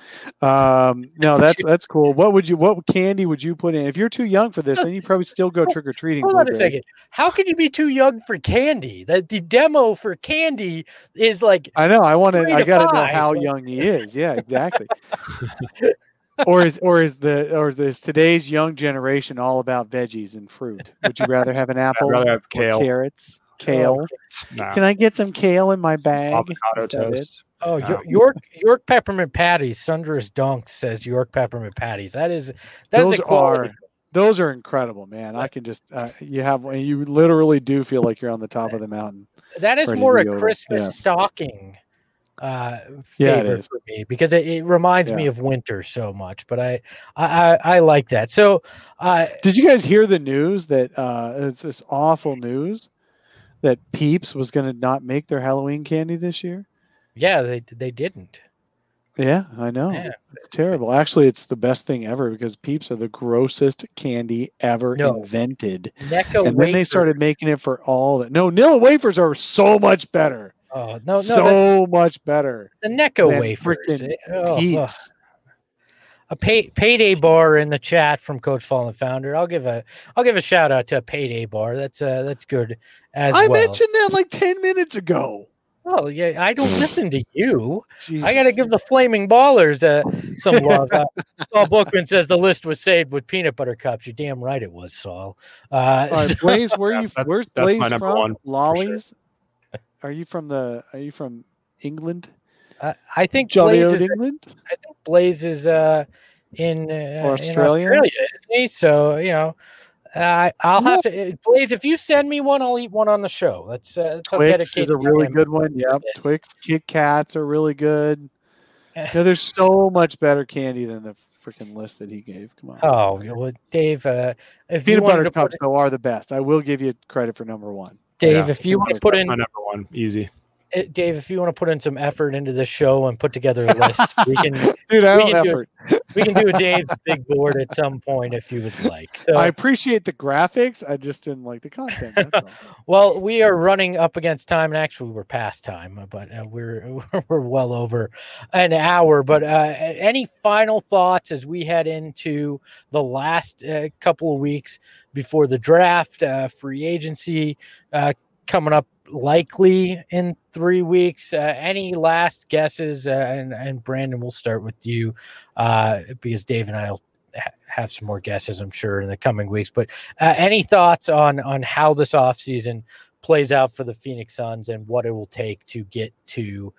that's cool. What candy would you put in? If you're too young for this, then you probably still go trick-or-treating. Hold on a second. How can you be too young for candy? The demo for candy is like, I know. I got to know how young he is. Yeah, exactly. Or is today's young generation all about veggies and fruit? Would you rather have an apple? I'd rather have kale. Carrots. Kale. No. Can I get some kale in my bag? Avocado toast. Oh, no. York peppermint patties. Sundress Dunk says York peppermint patties. That is a quality. Those are incredible, man. I can just you literally do feel like you're on the top of the mountain. That is more a Christmas stocking favorite for me, because it reminds me of winter so much. But I like that. So did you guys hear the news that it's this awful news that Peeps was going to not make their Halloween candy this year? Yeah, they didn't. Yeah, I know. Yeah. It's terrible. Actually, it's the best thing ever, because Peeps are the grossest candy ever invented. Necco and then they started making it for all that. No, Nilla wafers are so much better. Oh, no, so much better. The Necco wafers. Peeps. A payday bar in the chat from Coach Fallen Founder. I'll give a shout out to a payday bar. That's good as well. I mentioned that like 10 minutes ago. Oh yeah, I don't listen to you. Jesus. I got to give the Flaming Ballers some love. Saul Bookman says the list was saved with peanut butter cups. You're damn right it was, Saul. Right, Blaze, where's Blaze my number from? One, Lollies? Sure. Are you from England? I think Jolly Blaze is England. I think Blaze is in Australia, isn't he? So I'll have to, Blaze. If you send me one, I'll eat one on the show. That's Twix is a really good one. Yep, Twix, Kit Kats are really good. There's so much better candy than the freaking list that he gave. Come on. Oh, well, Dave. If peanut butter cups though are the best. I will give you credit for number one. Dave, if you want to put in my number one, easy. Dave, if you want to put in some effort into this show and put together a list, we can. Dude, I don't effort. We can do a Dave's Big Board at some point if you would like. So I appreciate the graphics. I just didn't like the content. That's all. Well, we are running up against time, and actually we're past time, but we're well over an hour. But any final thoughts as we head into the last couple of weeks before the draft, free agency coming up likely in 3 weeks? Any last guesses? And Brandon, we'll start with you because Dave and I will have some more guesses, I'm sure, in the coming weeks. But any thoughts on how this offseason plays out for the Phoenix Suns and what it will take to get to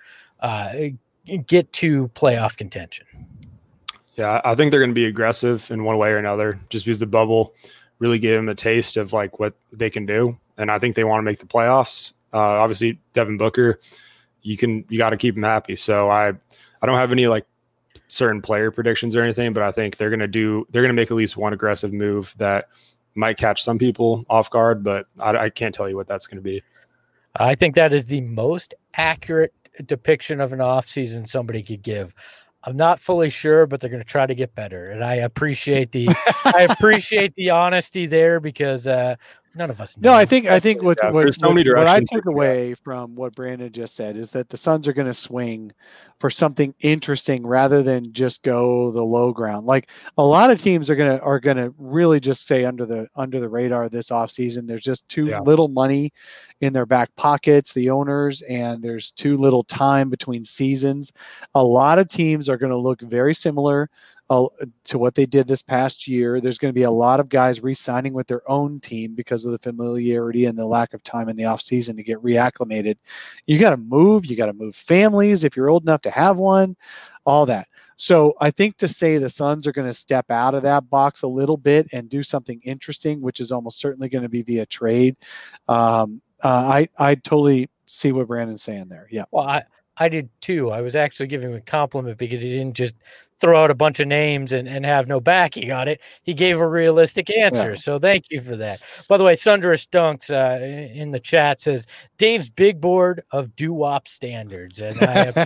playoff contention? Yeah, I think they're going to be aggressive in one way or another, just because the bubble really gave them a taste of like what they can do. And I think they want to make the playoffs. Obviously, Devin Booker, you got to keep him happy. So I don't have any like certain player predictions or anything, but I think they're going to make at least one aggressive move that might catch some people off guard, but I can't tell you what that's going to be. I think that is the most accurate depiction of an offseason somebody could give. I'm not fully sure, but they're going to try to get better. And I appreciate the honesty there because none of us know. No, I think what I took away from what Brandon just said is that the Suns are going to swing for something interesting rather than just go the low ground. Like a lot of teams are going to really just stay under the radar this offseason. There's just too little money in their back pockets, the owners, and there's too little time between seasons. A lot of teams are going to look very similar to what they did this past year. There's going to be a lot of guys re-signing with their own team because of the familiarity and the lack of time in the offseason to get reacclimated. You got to move families if you're old enough to have one, all that. So I think to say the Suns are going to step out of that box a little bit and do something interesting, which is almost certainly going to be via trade. I totally see what Brandon's saying there. Yeah. Well, I did too. I was actually giving him a compliment because he didn't just throw out a bunch of names and have no backing on it. He gave a realistic answer. Yeah. So thank you for that. By the way, Sundress Dunks in the chat says Dave's Big Board of doo-wop standards. And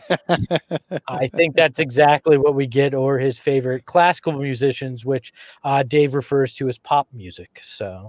I think that's exactly what we get, or his favorite classical musicians, which Dave refers to as pop music. So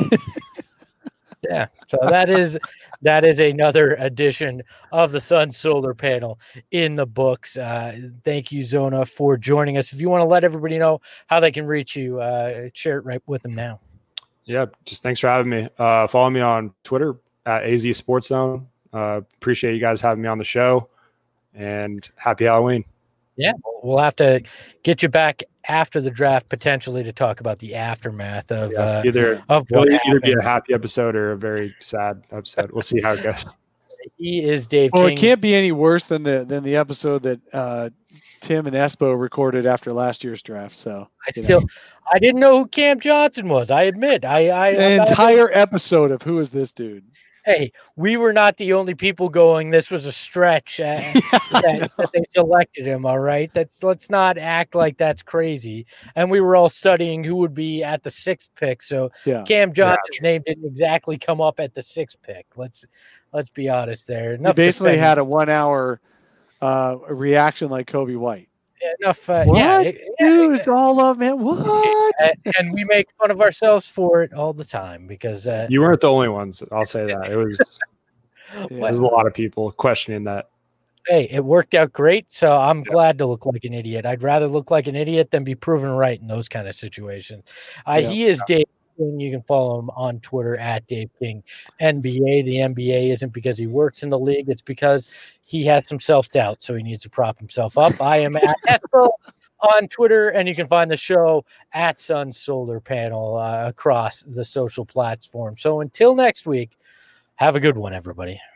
yeah, so that is another edition of the Suns Solar Panel in the books. Thank you, Zona, for joining us. If you want to let everybody know how they can reach you, share it right with them now. Yeah, just thanks for having me. Follow me on Twitter at AZ Sports Zone. Appreciate you guys having me on the show, and happy Halloween. Yeah, we'll have to get you back after the draft potentially to talk about the aftermath of either be a happy episode or a very sad episode. We'll see how it goes. He is Dave King. Well, it can't be any worse than the episode that Tim and Espo recorded after last year's draft. So I didn't know who Cam Johnson was. I admit, an entire episode of who is this dude? Hey, we were not the only people going, this was a stretch that they selected him, all right? Let's not act like that's crazy. And we were all studying who would be at the 6th pick. So Cam Johnson's name didn't exactly come up at the 6th pick. Let's be honest there. He basically had a 1 hour reaction like Kobe White. Enough. Dude, it's all love, man. What? And we make fun of ourselves for it all the time because you weren't the only ones. I'll say that it was. There's a lot of people questioning that. Hey, it worked out great, so I'm glad to look like an idiot. I'd rather look like an idiot than be proven right in those kind of situations. He is Dave King. You can follow him on Twitter at Dave King NBA. The NBA isn't because he works in the league; it's because he has some self-doubt, so he needs to prop himself up. I am at Espo on Twitter, and you can find the show at Suns Solar Panel across the social platform. So until next week, have a good one, everybody.